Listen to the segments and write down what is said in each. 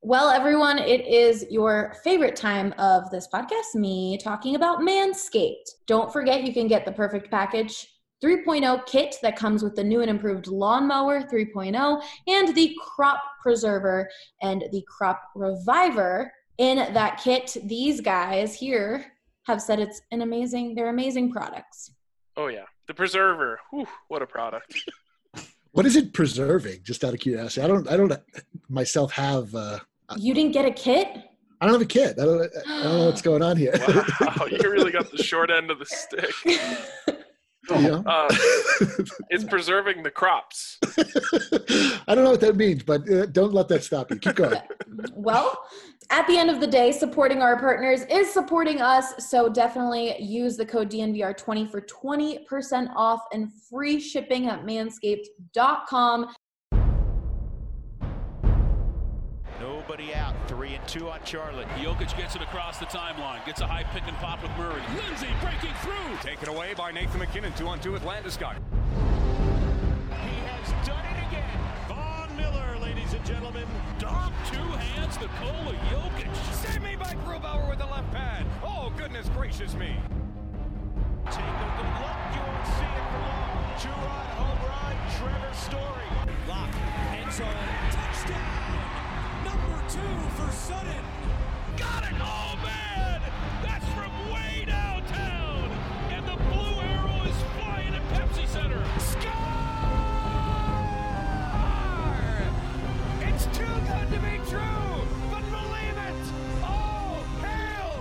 Well, everyone, it is your favorite time of this podcast, me talking about Manscaped. Don't forget you can get the Perfect Package 3.0 kit that comes with the new and improved Lawnmower 3.0 and the Crop Preserver and the Crop Reviver. In that kit, these guys here have said they're amazing products. Oh, yeah. The Preserver. Whew, what a product. What is it preserving? Just out of curiosity. I don't myself have. You didn't get a kit? I don't have a kit. I don't know what's going on here. Wow, you really got the short end of the stick. Yeah. It's preserving the crops. I don't know what that means, but don't let that stop you. Keep going. Well, at the end of the day, supporting our partners is supporting us. So definitely use the code DNVR20 for 20% off and free shipping at manscaped.com. Nobody out. 3-2 on Charlotte. Jokic gets it across the timeline. Gets a high pick and pop with Murray. Lindsay breaking through. Taken away by Nathan McKinnon. 2-on-2 with Landeskog. He has done it again. Von Miller, ladies and gentlemen. Dom, two hands, Nikola Jokic. Saved me by Grubauer with the left pad. Oh, goodness gracious me. Take a good look. You won't see it for long. Two-run home run, Trevor Story. Lock. End zone. Touchdown. Number 2 for Sutton. Got it! Oh, man! That's from way downtown! And the blue arrow is flying at Pepsi Center. Score! It's too good to be true, but believe it! Oh, hail,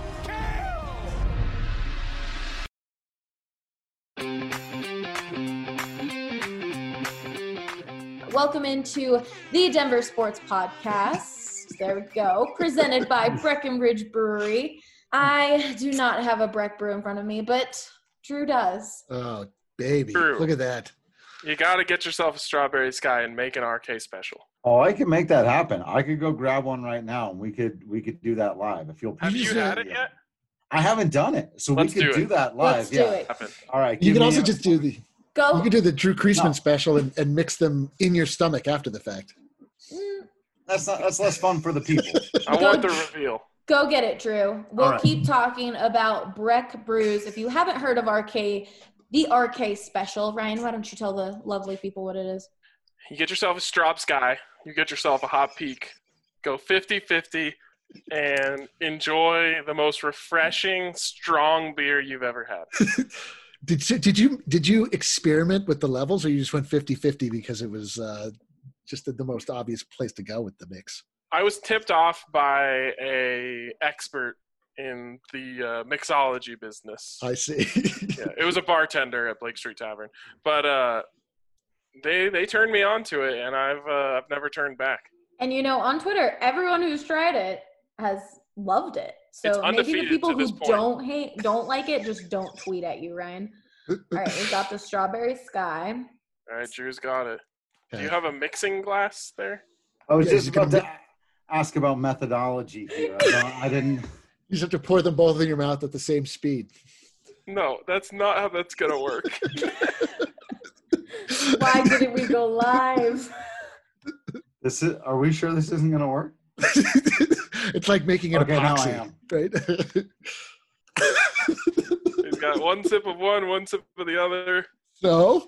Kale! Welcome into the Denver Sports Podcast. There we go. Presented by Breckenridge Brewery. I do not have a Breck brew in front of me, but Drew does. Oh, baby. Drew. Look at that. You got to get yourself a Strawberry Sky and make an RK special. Oh, I can make that happen. I could go grab one right now, and we could do that live. If you'll Have you had it yet? I haven't done it, so Let's we could do that live. Let's do it. All right. You can also just do the. Go. You can do the Drew Kreisman special and mix them in your stomach after the fact. That's less fun for the people. I want the reveal. Go get it, Drew. We'll right. keep talking about Breck brews. If you haven't heard of RK, the RK special, Ryan, why don't you tell the lovely people what it is? You get yourself a Straub Sky. You get yourself a Hot Peak. Go 50-50 and enjoy the most refreshing, strong beer you've ever had. Did you experiment with the levels, or you just went 50-50 because it was just the most obvious place to go with the mix? I was tipped off by a expert in the mixology business. I see. Yeah, it was a bartender at Blake Street Tavern, but they turned me on to it, and I've never turned back. And on Twitter, everyone who's tried it has loved it. So maybe the people who don't like it, just don't tweet at you, Ryan. All right, we got the Strawberry Sky. All right, Drew's got it. Okay. Do you have a mixing glass there? I was just about to ask about methodology here. I didn't. You just have to pour them both in your mouth at the same speed. No, that's not how that's going to work. Why didn't we go live? Are we sure this isn't going to work? It's like making an epoxy, now I am. right? He's got one sip of one sip of the other. So?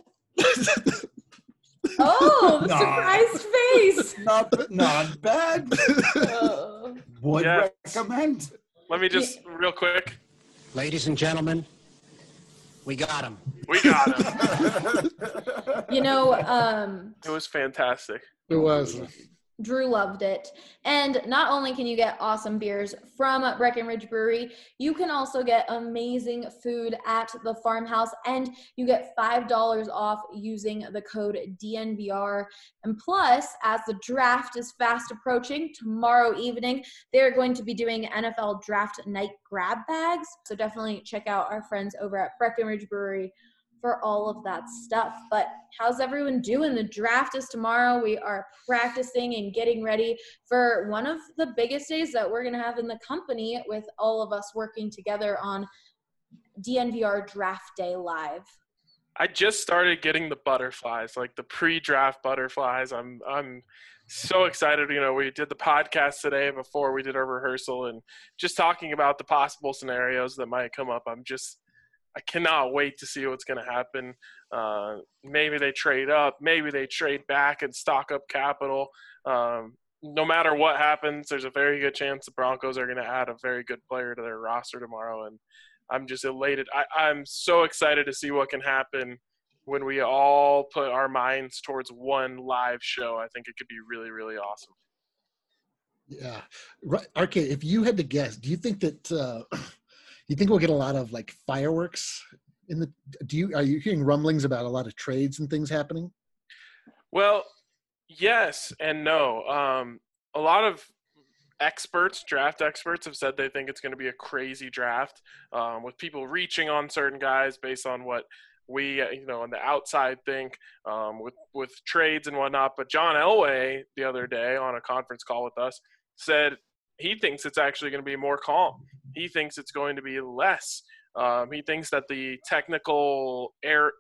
Oh, the surprised face. Not bad. Would recommend. Let me just real quick. Ladies and gentlemen, we got him. We got him. It was fantastic. It was. Drew loved it. And not only can you get awesome beers from Breckenridge Brewery, you can also get amazing food at the farmhouse, and you get $5 off using the code DNVR. And plus, as the draft is fast approaching, tomorrow evening, they're going to be doing NFL Draft Night grab bags. So definitely check out our friends over at Breckenridge Brewery for all of that stuff. But how's everyone doing? The draft is tomorrow. We are practicing and getting ready for one of the biggest days that we're going to have in the company, with all of us working together on DNVR Draft Day Live. I just started getting the butterflies, like the pre-draft butterflies. I'm So excited. We did the podcast today before we did our rehearsal and just talking about the possible scenarios that might come up. I cannot wait to see what's going to happen. Maybe they trade up, maybe they trade back and stock up capital. No matter what happens, there's a very good chance the Broncos are going to add a very good player to their roster tomorrow. And I'm just elated. I'm so excited to see what can happen when we all put our minds towards one live show. I think it could be really, really awesome. Yeah. Right. RK, if you had to guess, do you think that you think we'll get a lot of like fireworks are you hearing rumblings about a lot of trades and things happening? Well, yes and no. A lot of draft experts have said they think it's going to be a crazy draft, with people reaching on certain guys based on what we, on the outside think, with trades and whatnot. But John Elway the other day on a conference call with us said he thinks it's actually going to be more calm. He thinks it's going to be less. He thinks that the technical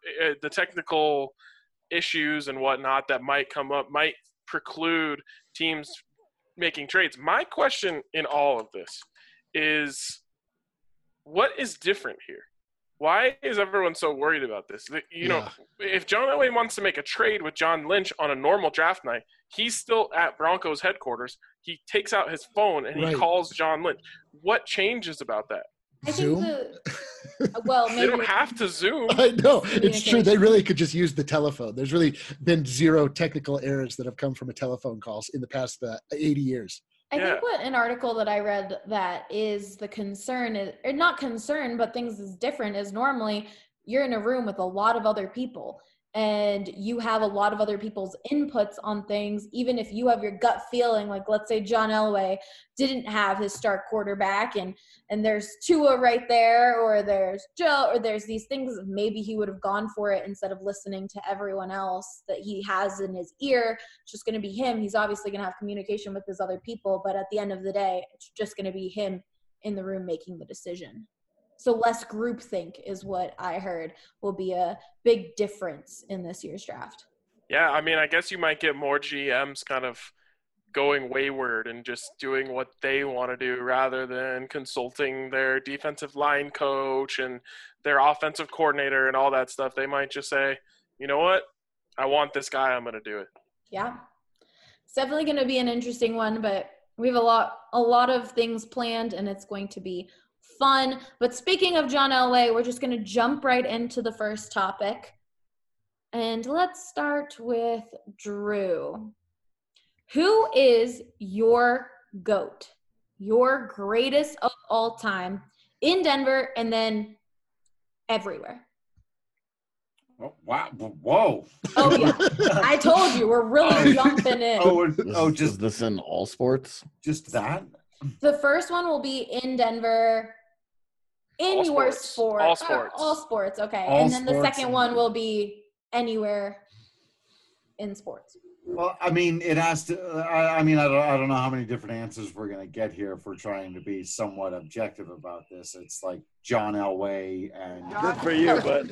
issues and whatnot that might come up might preclude teams making trades. My question in all of this is, what is different here? Why is everyone so worried about this? If John Elway wants to make a trade with John Lynch on a normal draft night, he's still at Broncos headquarters. He takes out his phone and he calls John Lynch. What changes about that? I Zoom? think maybe they don't have to Zoom. I know. It's true. They really could just use the telephone. There's really been zero technical errors that have come from a telephone calls in the past 80 years. I think what an article that I read that is the concern is, or not concern, but things is different, is normally you're in a room with a lot of other people and you have a lot of other people's inputs on things. Even if you have your gut feeling, like let's say John Elway didn't have his start quarterback and there's Tua right there, or there's Joe, or there's these things, maybe he would have gone for it instead of listening to everyone else that he has in his ear. It's just going to be him. He's obviously going to have communication with his other people, but at the end of the day, it's just going to be him in the room making the decision. So less groupthink is what I heard will be a big difference in this year's draft. Yeah, I guess you might get more GMs kind of going wayward and just doing what they want to do rather than consulting their defensive line coach and their offensive coordinator and all that stuff. They might just say, you know what? I want this guy. I'm going to do it. Yeah. It's definitely going to be an interesting one, but we have a lot of things planned and it's going to be fun. But speaking of John Elway, we're just going to jump right into the first topic. And let's start with Drew. Who is your GOAT, your greatest of all time in Denver and then everywhere? Oh, wow. Whoa. Oh, yeah. I told you, we're really jumping in. Is this in all sports? Just that? The first one will be in Denver, in your sport. All sports. All sports, okay. All and then the sports. second one will be anywhere in sports. Well, it has to. I don't know how many different answers we're going to get here if we're trying to be somewhat objective about this. It's like John Elway and. Good for you, bud.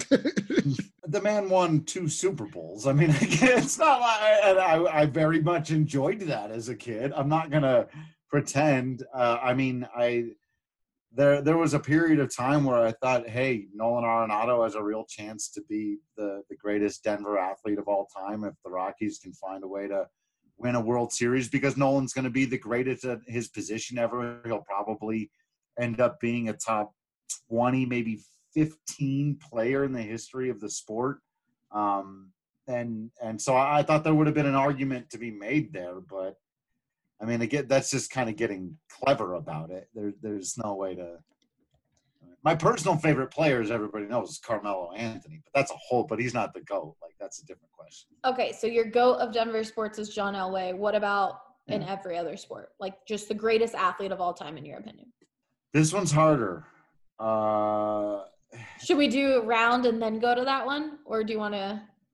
The man won 2 Super Bowls. It's not like I very much enjoyed that as a kid. I'm not going to pretend. There was a period of time where I thought, hey, Nolan Arenado has a real chance to be the greatest Denver athlete of all time if the Rockies can find a way to win a World Series, because Nolan's going to be the greatest at his position ever. He'll probably end up being a top 20, maybe 15 player in the history of the sport. And so I thought there would have been an argument to be made there, but again, that's just kind of getting clever about it. There's no way to. My personal favorite player, as everybody knows, is Carmelo Anthony, but he's not the GOAT. That's a different question. Okay, so your GOAT of Denver sports is John Elway. What about in every other sport? Just the greatest athlete of all time, in your opinion? This one's harder. Should we do a round and then go to that one? Or do you want to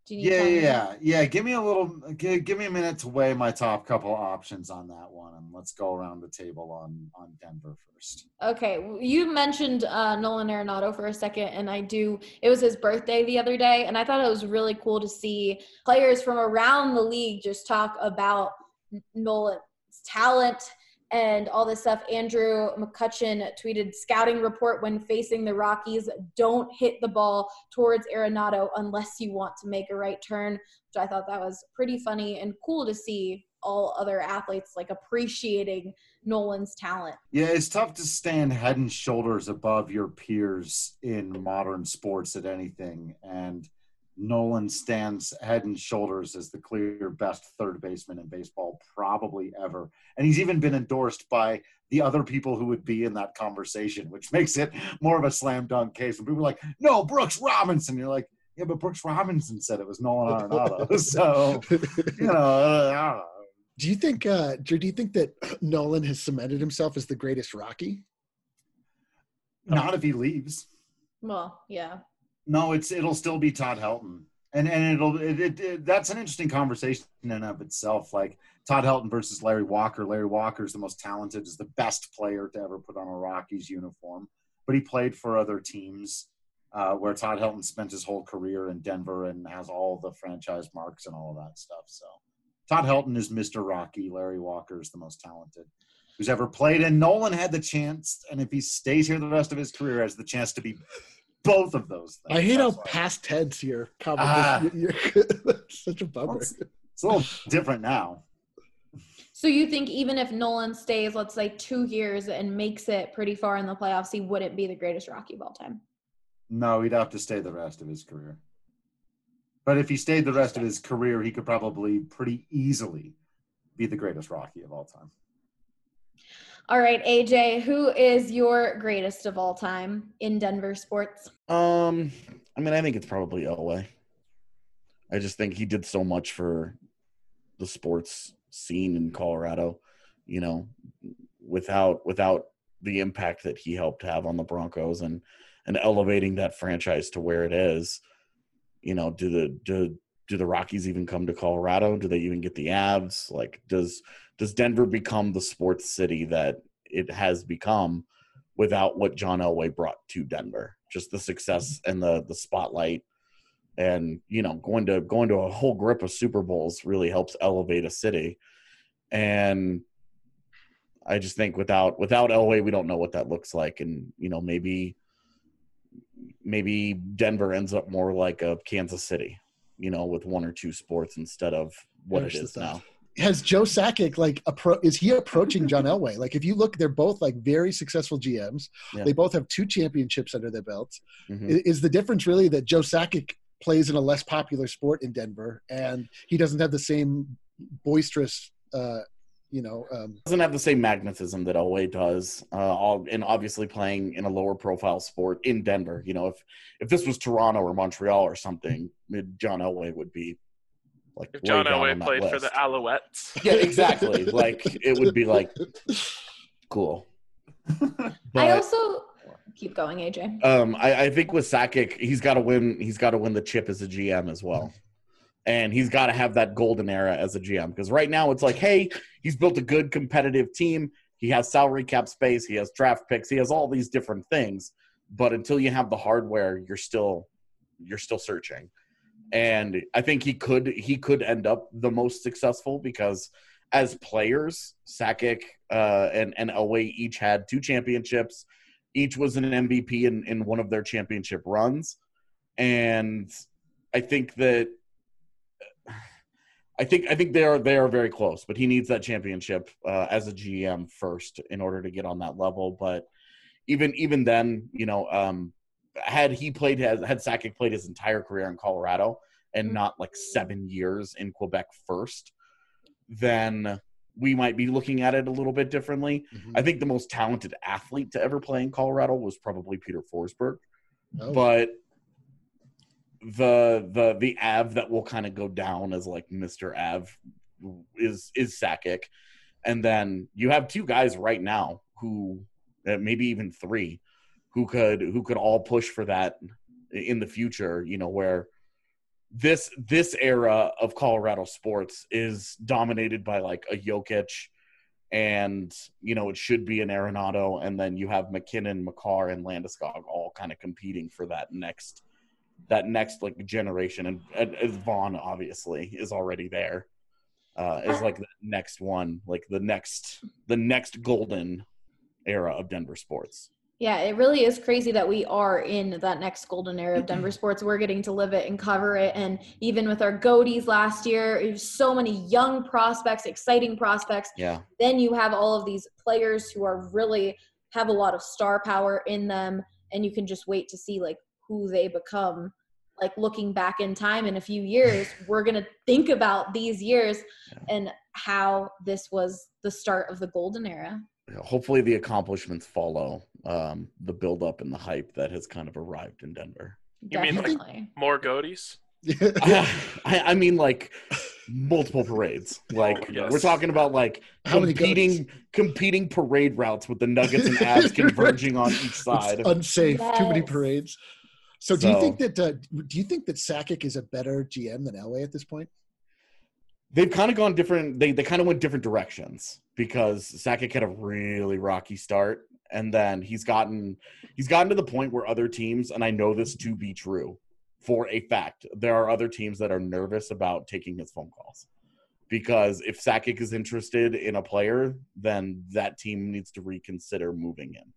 Do you need Yeah. Give me a minute to weigh my top couple options on that one, and let's go around the table on Denver first. Okay, you mentioned Nolan Arenado for a second, and it was his birthday the other day, and I thought it was really cool to see players from around the league just talk about Nolan's talent and all this stuff. Andrew McCutcheon tweeted, scouting report when facing the Rockies, don't hit the ball towards Arenado unless you want to make a right turn, which I thought that was pretty funny and cool to see all other athletes like appreciating Nolan's talent. Yeah, it's tough to stand head and shoulders above your peers in modern sports at anything, and Nolan stands head and shoulders as the clear best third baseman in baseball probably ever. And he's even been endorsed by the other people who would be in that conversation, which makes it more of a slam dunk case. When people are like, no, Brooks Robinson. You're like, yeah, but Brooks Robinson said it was Nolan Arenado. So, I don't know. Do you think, Drew, do you think that Nolan has cemented himself as the greatest Rocky? Not if he leaves. Well, yeah. No, it'll still be Todd Helton, and that's an interesting conversation in and of itself. Like Todd Helton versus Larry Walker. Larry Walker is the most talented, is the best player to ever put on a Rockies uniform, but he played for other teams. Where Todd Helton spent his whole career in Denver and has all the franchise marks and all of that stuff. So Todd Helton is Mr. Rocky. Larry Walker is the most talented who's ever played, and Nolan had the chance, and if he stays here the rest of his career, has the chance to be both of those things. I hate how past tense your conversation. Such a bummer. Well, it's a little different now. So you think even if Nolan stays, let's say 2 years and makes it pretty far in the playoffs, he wouldn't be the greatest Rocky of all time? No, he'd have to stay the rest of his career. But if he stayed the rest of his career, he could probably pretty easily be the greatest Rocky of all time. All right, AJ, who is your greatest of all time in Denver sports? I think it's probably Elway. I just think he did so much for the sports scene in Colorado, without the impact that he helped have on the Broncos and elevating that franchise to where it is. Do the Rockies even come to Colorado? Do they even get the Avs? Like, does Denver become the sports city that it has become without what John Elway brought to Denver? Just the success and the spotlight, and going to a whole grip of Super Bowls really helps elevate a city. And I just think without Elway, we don't know what that looks like. And maybe Denver ends up more like a Kansas City, with one or two sports instead of what it is now. Has Joe Sakic is he approaching John Elway? Like, if you look, they're both like very successful GMs. Yeah. They both have 2 championships under their belts. Mm-hmm. Is the difference really that Joe Sakic plays in a less popular sport in Denver and he doesn't have the same boisterous, doesn't have the same magnetism that Elway does, and obviously playing in a lower profile sport in Denver. If this was Toronto or Montreal or something, John Elway would be like, if John Elway played for the Alouettes. Yeah, exactly. Like, it would be like cool. But I also keep going, AJ. I think with Sakic, he's got to win the chip as a GM as well. And he's got to have that golden era as a GM, because right now it's like, hey, he's built a good competitive team. He has salary cap space. He has draft picks. He has all these different things. But until you have the hardware, you're still searching. And I think he could end up the most successful, because as players, Sakic and Elway each had 2 championships. Each was an MVP in one of their championship runs. And I think that I think they are very close, but he needs that championship as a GM first in order to get on that level. But even then, had Sakic played his entire career in Colorado and not like 7 years in Quebec first, then we might be looking at it a little bit differently. Mm-hmm. I think the most talented athlete to ever play in Colorado was probably Peter Forsberg, but the Av that will kind of go down as like Mr. Av is Sakic. And then you have 2 guys right now who maybe even 3 who could all push for that in the future, where this era of Colorado sports is dominated by like a Jokic, and it should be an Arenado, and then you have McKinnon, Makar, and Landeskog all kind of competing for that next like generation, and Vaughn obviously is already there. Is like the next one, like the next golden era of Denver sports. Yeah, it really is crazy that we are in that next golden era of Denver sports. We're getting to live it and cover it. And even with our Goaties last year, there's so many young prospects, exciting prospects. Yeah. Then you have all of these players who are really have a lot of star power in them. And you can just wait to see like who they become. Like looking back in time in a few years, we're going to think about these years and how this was the start of the golden era. Hopefully the accomplishments follow the buildup and the hype that has kind of arrived in Denver. You mean like more Goaties? I mean like multiple parades. Like we're talking about like competing parade routes with the Nuggets and Avs converging on each side. It's unsafe. Yes. Too many parades. So do you think that Sakic is a better GM than Elway at this point? They've kind of gone different. They kind of went different directions because Sakic had a really rocky start, and then he's gotten to the point where other teams, and I know this to be true for a fact, there are other teams that are nervous about taking his phone calls because if Sakic is interested in a player, then that team needs to reconsider moving in.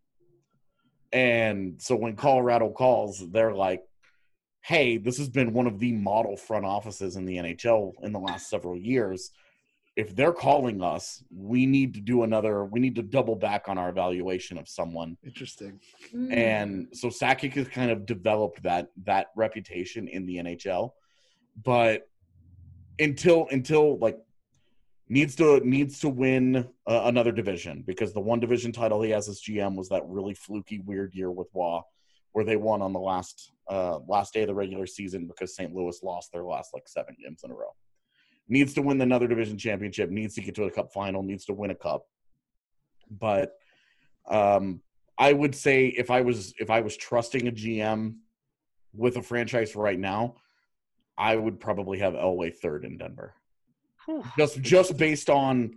And so when Colorado calls, they're like, hey, this has been one of the model front offices in the NHL in the last several years. If they're calling us, we need to double back on our evaluation of someone. Interesting. And so Sakic has kind of developed that reputation in the NHL. But until like needs to win another division, because the one division title he has as GM was that really fluky, weird year with Waugh, where they won on the last day of the regular season because St. Louis lost their last like 7 games in a row. Needs to win another division championship, needs to get to a cup final, needs to win a cup. But I would say if I was trusting a GM with a franchise right now, I would probably have Elway third in Denver. Just based on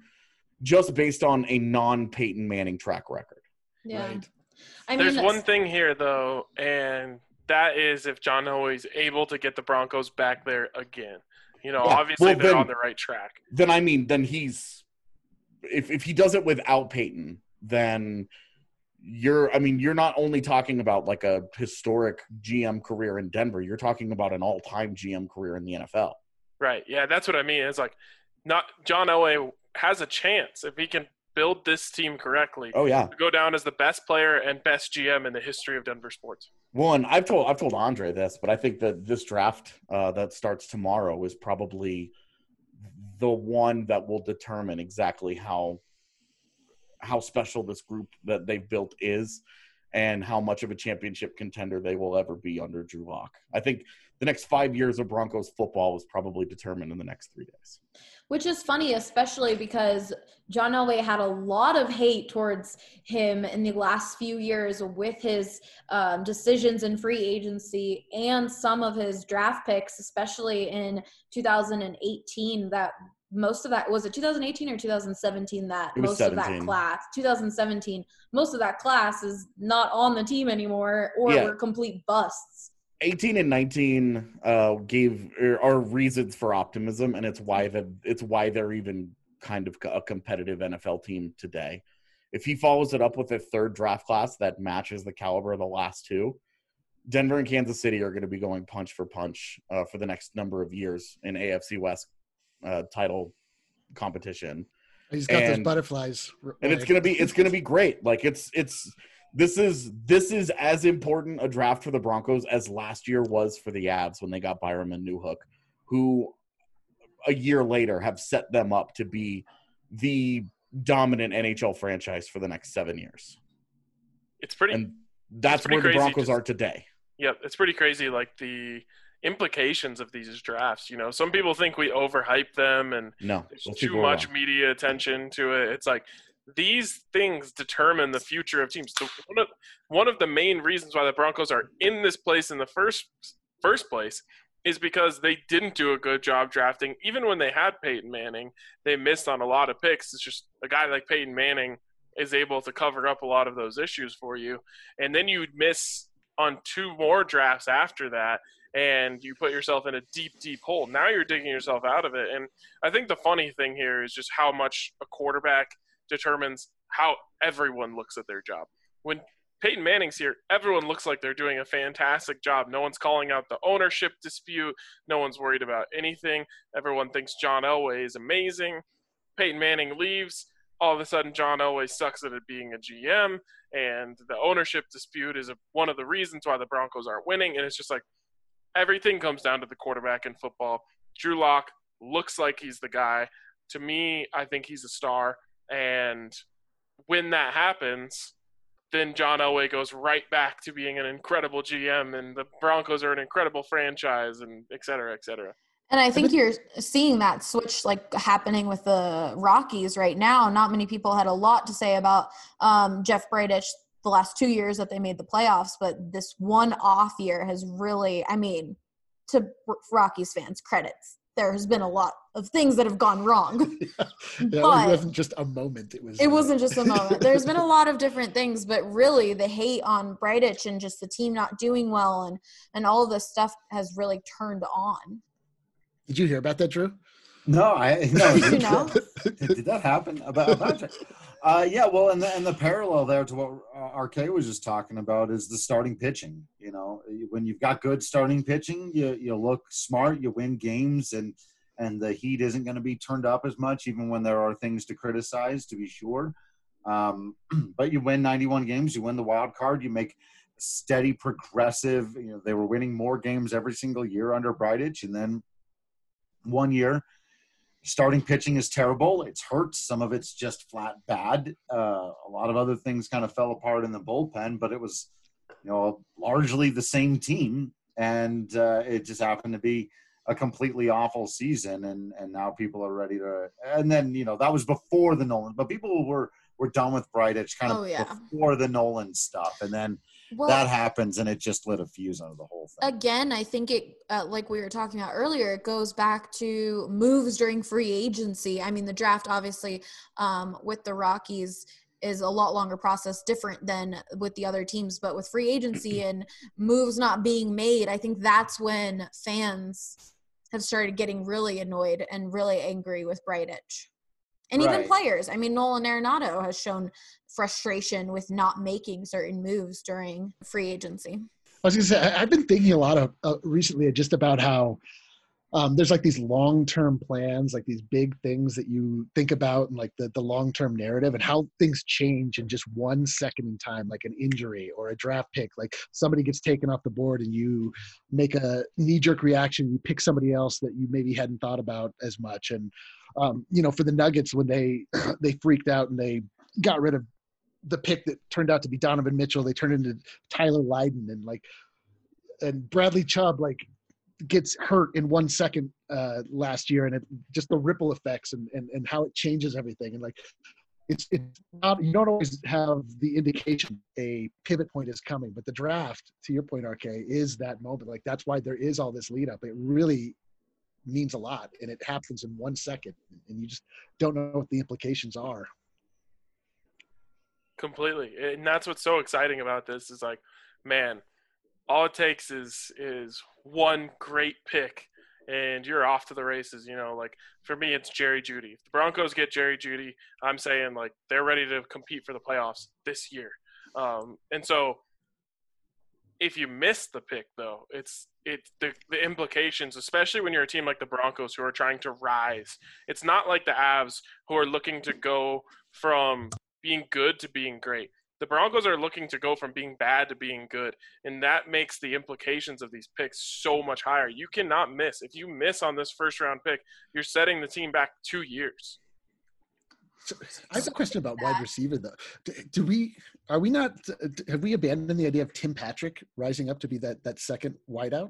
a non-Peyton Manning track record. Yeah. Right. I mean, there's one thing here though, and that is if John Elway's able to get the Broncos back there again. Obviously they're on the right track. Then he's if he does it without Peyton, then you're not only talking about like a historic GM career in Denver, you're talking about an all-time GM career in the NFL. Right. Yeah, that's what I mean. It's like not John Elway has a chance if he can build this team correctly. Oh yeah. To go down as the best player and best GM in the history of Denver sports. Well, and I've told Andre this, but I think that this draft that starts tomorrow is probably the one that will determine exactly how special this group that they've built is and how much of a championship contender they will ever be under Drew Lock. I think the next 5 years of Broncos football is probably determined in the next 3 days. Which is funny, especially because John Elway had a lot of hate towards him in the last few years with his decisions in free agency and some of his draft picks, especially in 2018. That most of that was it 2018 or 2017 that most 17. of that class 2017 most of that class is not on the team anymore or were complete busts. 18 and 19 are reasons for optimism, and it's why they're even kind of a competitive NFL team today. If he follows it up with a third draft class that matches the caliber of the last two, Denver and Kansas City are going to be going punch for punch for the next number of years in AFC West title competition. He's got those butterflies, and it's gonna be great. Like this is as important a draft for the Broncos as last year was for the Avs when they got Byram and Newhook, who a year later have set them up to be the dominant NHL franchise for the next 7 years. That's where the Broncos are today. Yep, it's pretty crazy. Like the implications of these drafts, some people think we overhype them and there's too much media attention to it. It's like these things determine the future of teams. So one of the main reasons why the Broncos are in this place in the first place is because they didn't do a good job drafting. Even when they had Peyton Manning, they missed on a lot of picks. It's just a guy like Peyton Manning is able to cover up a lot of those issues for you. And then you'd miss on 2 more drafts after that, and you put yourself in a deep, deep hole. Now you're digging yourself out of it. And I think the funny thing here is just how much a quarterback determines how everyone looks at their job. When Peyton Manning's here, everyone looks like they're doing a fantastic job. No one's calling out the ownership dispute. No one's worried about anything. Everyone thinks John Elway is amazing. Peyton Manning leaves. All of a sudden, John Elway sucks at it being a GM, and the ownership dispute is one of the reasons why the Broncos aren't winning. And it's just like everything comes down to the quarterback in football. Drew Lock looks like he's the guy. To me, I think he's a star. And when that happens, then John Elway goes right back to being an incredible GM, and the Broncos are an incredible franchise, and et cetera, et cetera. And I think you're seeing that switch like happening with the Rockies right now. Not many people had a lot to say about Jeff Bridich the last 2 years that they made the playoffs, but this one off year has really, I mean, to Rockies fans, credits. There has been a lot of things that have gone wrong. But it wasn't just a moment. It wasn't just a moment. There's been a lot of different things, but really the hate on Bridich and just the team not doing well and all of this stuff has really turned on. Did you hear about that, Drew? No. Did you know? Did that happen? About yeah, well, and the parallel there to what RK was just talking about is the starting pitching. You know, when you've got good starting pitching, you look smart, you win games, and the heat isn't going to be turned up as much, even when there are things to criticize, to be sure. But you win 91 games, you win the wild card, you make steady, progressive. You know, they were winning more games every single year under Bridich, and then one year, starting pitching is terrible. It's hurt. Some of it's just flat bad. A lot of other things kind of fell apart in the bullpen, but it was, you know, largely the same team. And it just happened to be a completely awful season. And now people are ready to, and then, you know, that was before the Nolan, but people were done with Bridich kind of before the Nolan stuff. And then that happens, and it just lit a fuse under the whole thing. Again, I think it, like we were talking about earlier, it goes back to moves during free agency. I mean, the draft, obviously, with the Rockies is a lot longer process, different than with the other teams. But with free agency and moves not being made, I think that's when fans have started getting really annoyed and really angry with Bridich. And even players. I mean, Nolan Arenado has shown frustration with not making certain moves during free agency. I was going to say, I've been thinking a lot of recently just about how there's like these long-term plans, like these big things that you think about and like the long-term narrative, and how things change in just 1 second in time, like an injury or a draft pick. Like somebody gets taken off the board and you make a knee-jerk reaction, you pick somebody else that you maybe hadn't thought about as much. And you know, for the Nuggets, when they freaked out and they got rid of the pick that turned out to be Donovan Mitchell, they turned into Tyler Lydon, and Bradley Chubb gets hurt in 1 second last year, and it just the ripple effects and how it changes everything. And it's not, you don't always have the indication a pivot point is coming, but the draft, to your point, RK, is that moment. Like that's why there is all this lead up. It really means a lot, and it happens in 1 second, and you just don't know what the implications are. Completely. And that's what's so exciting about this is like, man, all it takes is one great pick and you're off to the races. You know, like for me, it's Jerry Jeudy. If the Broncos get Jerry Jeudy, I'm saying like they're ready to compete for the playoffs this year. And so if you miss the pick, though, it's the implications, especially when you're a team like the Broncos who are trying to rise. It's not like the Avs who are looking to go from being good to being great. The Broncos are looking to go from being bad to being good, and that makes the implications of these picks so much higher. You cannot miss. If you miss on this first-round pick, you're setting the team back 2 years. So I have a question about wide receiver, though. Have we abandoned the idea of Tim Patrick rising up to be that second wideout?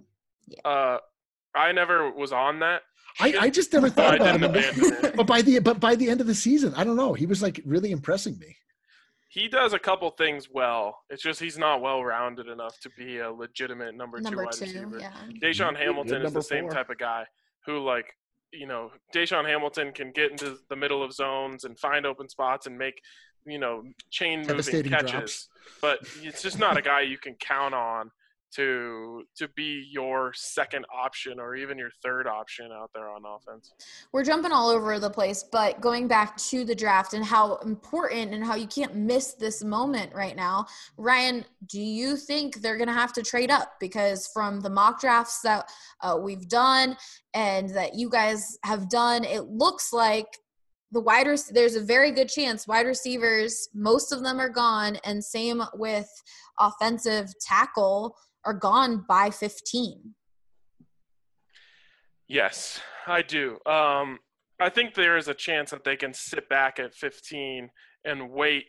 I never was on that. I just never thought about him. But by the end of the season, I don't know. He was like really impressing me. he does a couple things well. It's just he's not well-rounded enough to be a legitimate number two wide receiver. Yeah. Deshaun Hamilton is number the same 4. type of guy who, like, Deshaun Hamilton can get into the middle of zones and find open spots and make, chain-moving catches. Drops. But it's just not a guy you can count on to be your second option or even your third option out there on offense. We're jumping all over the place, but going back to the draft and how important and how you can't miss this moment right now, Ryan, do you think they're going to have to trade up? Because from the mock drafts that we've done and that you guys have done, it looks like there's a very good chance wide receivers, most of them are gone, and same with offensive tackle, are gone by 15. Yes, I do. I think there is a chance that they can sit back at 15 and wait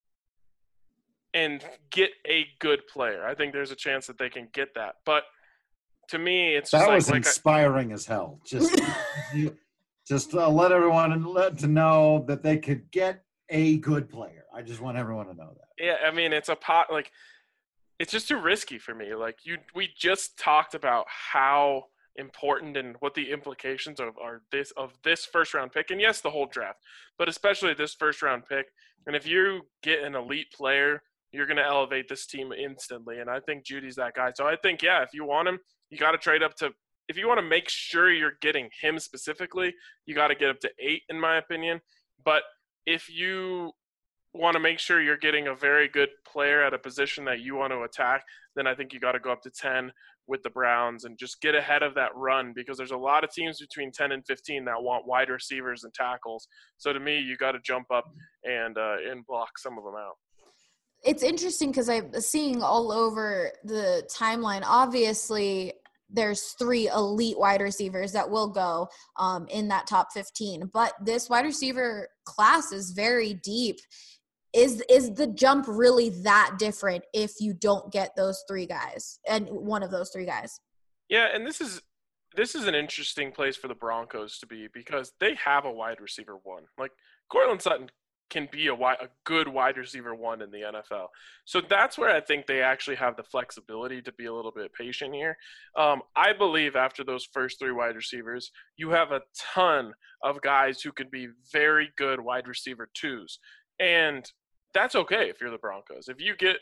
and get a good player. I think there's a chance that they can get that. But to me, it's just that was inspiring as hell. Just let everyone to know that they could get a good player. I just want everyone to know that. Yeah, I mean, it's just too risky for me. Like we just talked about how important and what the implications of this first round pick, and yes, the whole draft, but especially this first round pick. And if you get an elite player, you're going to elevate this team instantly. And I think Judy's that guy. So I think, yeah, if you want him, you got to trade up to. If you want to make sure you're getting him specifically, you got to get up to 8, in my opinion. But if you want to make sure you're getting a very good player at a position that you want to attack, then I think you got to go up to 10 with the Browns and just get ahead of that run, because there's a lot of teams between 10 and 15 that want wide receivers and tackles. So to me, you got to jump up and block some of them out. It's interesting because I'm seeing all over the timeline, obviously – there's 3 elite wide receivers that will go in that top 15. But this wide receiver class is very deep. Is the jump really that different if you don't get those 3 guys and one of those 3 guys? Yeah, and this is an interesting place for the Broncos to be, because they have a wide receiver 1. Like, Courtland Sutton can be a good wide receiver 1 in the NFL. So that's where I think they actually have the flexibility to be a little bit patient here. I believe after those first 3 wide receivers, you have a ton of guys who could be very good wide receiver 2s. And that's okay if you're the Broncos. If you get,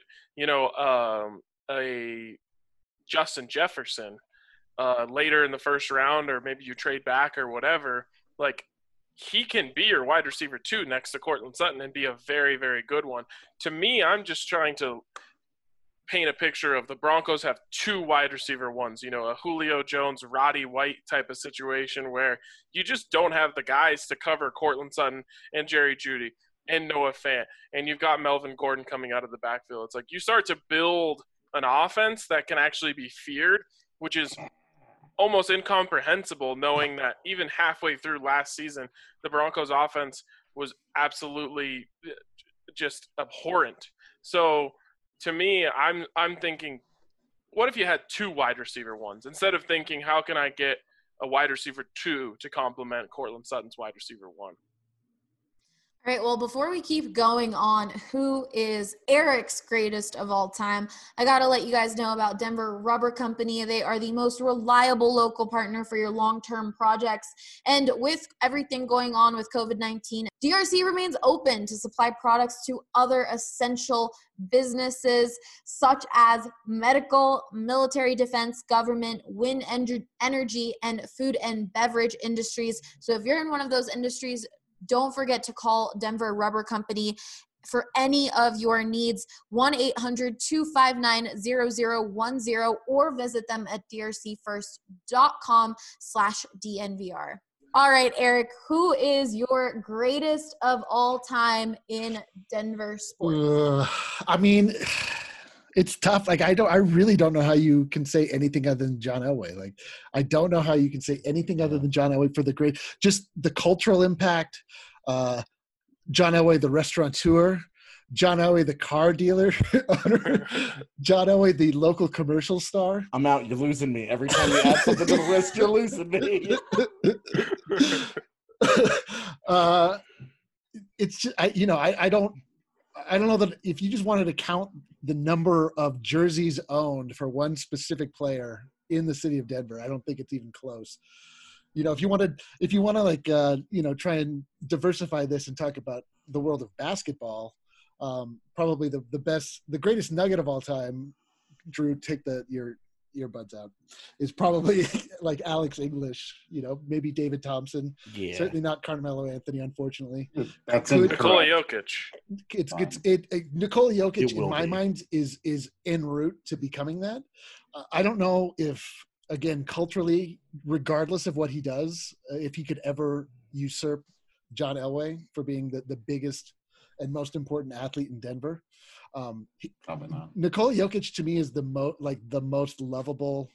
a Justin Jefferson later in the first round, or maybe you trade back or whatever, like, he can be your wide receiver 2 next to Courtland Sutton and be a very, very good one. To me, I'm just trying to paint a picture of the Broncos have 2 wide receiver 1s, a Julio Jones, Roddy White type of situation where you just don't have the guys to cover Courtland Sutton and Jerry Jeudy and Noah Fant. And you've got Melvin Gordon coming out of the backfield. It's like you start to build an offense that can actually be feared, which is almost incomprehensible, knowing that even halfway through last season, the Broncos offense was absolutely just abhorrent. So to me, I'm thinking, what if you had 2 wide receiver 1s instead of thinking, how can I get a wide receiver 2 to complement Courtland Sutton's wide receiver 1? All right, well, before we keep going on who is Eric's greatest of all time, I got to let you guys know about Denver Rubber Company. They are the most reliable local partner for your long-term projects. And with everything going on with COVID-19, DRC remains open to supply products to other essential businesses such as medical, military defense, government, wind energy, and food and beverage industries. So if you're in one of those industries, don't forget to call Denver Rubber Company for any of your needs, 1-800-259-0010, or visit them at drcfirst.com/DNVR. All right, Eric, who is your greatest of all time in Denver sports? I mean, it's tough. Like, I really don't know how you can say anything other than John Elway. Like, I don't know how you can say anything other than John Elway for just the cultural impact. John Elway, the restaurateur, John Elway, the car dealer, John Elway, the local commercial star. I'm out. You're losing me. Every time you add something to the list, you're losing me. It's just, I don't. I don't know that if you just wanted to count the number of jerseys owned for one specific player in the city of Denver, I don't think it's even close. You know, if you want to like, you know, try and diversify this and talk about the world of basketball, probably the greatest nugget of all time, Drew, take your earbuds out, is probably like Alex English, you know, maybe David Thompson, certainly not Carmelo Anthony, unfortunately. That's Nikola Jokic. Nikola Jokic in my mind is en route to becoming that. I don't know if, again, culturally, regardless of what he does, if he could ever usurp John Elway for being the biggest and most important athlete in Denver. Probably not. Nikola Jokic to me is the most lovable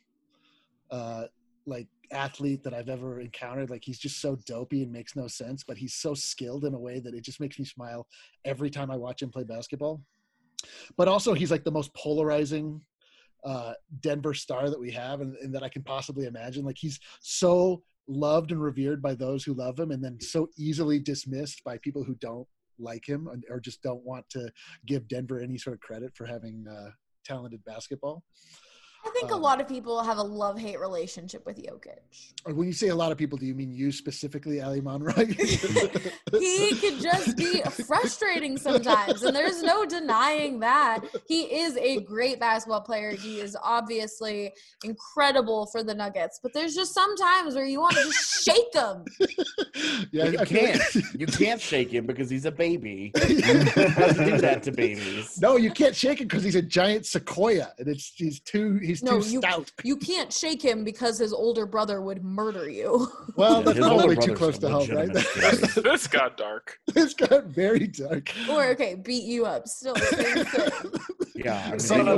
like athlete that I've ever encountered. Like, he's just so dopey and makes no sense, but he's so skilled in a way that it just makes me smile every time I watch him play basketball. But also he's like the most polarizing Denver star that we have and that I can possibly imagine. Like, he's so loved and revered by those who love him, and then so easily dismissed by people who don't like him or just don't want to give Denver any sort of credit for having talented basketball. I think a lot of people have a love-hate relationship with Jokic. When you say a lot of people, do you mean you specifically, Ali Monroy? He could just be frustrating sometimes, and there's no denying that. He is a great basketball player. He is obviously incredible for the Nuggets, but there's just some times where you want to just shake him. Yeah, you can't. You can't shake him because he's a baby. He doesn't do that to babies. No, you can't shake him because he's a giant sequoia, and he's too stout. You can't shake him because his older brother would murder you. Well, that's probably too close to home, right? This got dark. This got very dark. Or beat you up. Still the same thing. Yeah.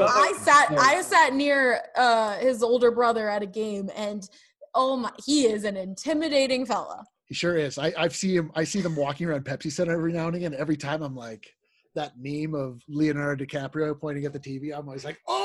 I sat near his older brother at a game, and he is an intimidating fella. He sure is. I see them walking around Pepsi Center every now and again. Every time I'm like, that meme of Leonardo DiCaprio pointing at the TV, I'm always like, oh!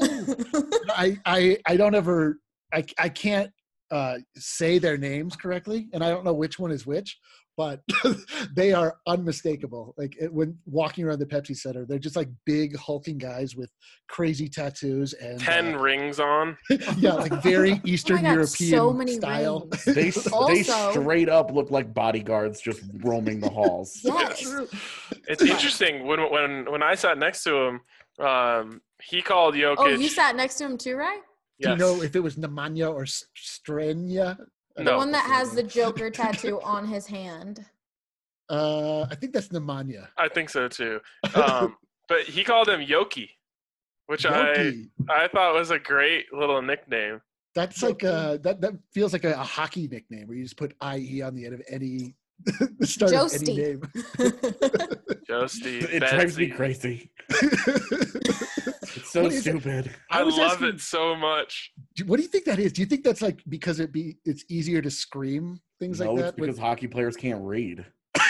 I can't say their names correctly, and I don't know which one is which, but they are unmistakable. Like, when walking around the Pepsi Center, they're just like big hulking guys with crazy tattoos and 10 rings on. Yeah, like very Eastern European so many style. They straight up look like bodyguards just roaming the halls. Yes. It's interesting when I sat next to him, he called Jokic. Oh, you sat next to him too, right? Yes. Do you know if it was Nemanja or Strenya? The one that has the Joker tattoo on his hand. I think that's Nemanja. I think so too. But he called him Yoki, which Yoki. I thought was a great little nickname. That's like that feels like a hockey nickname where you just put IE on the end of any the start of any name. Joesty. It drives me crazy. It's so stupid. I love it so much. What do you think that is? Do you think that's like because it's easier to scream things like that? No, it's because hockey players can't read.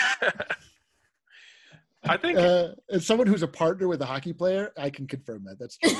I think as someone who's a partner with a hockey player, I can confirm that. That's true.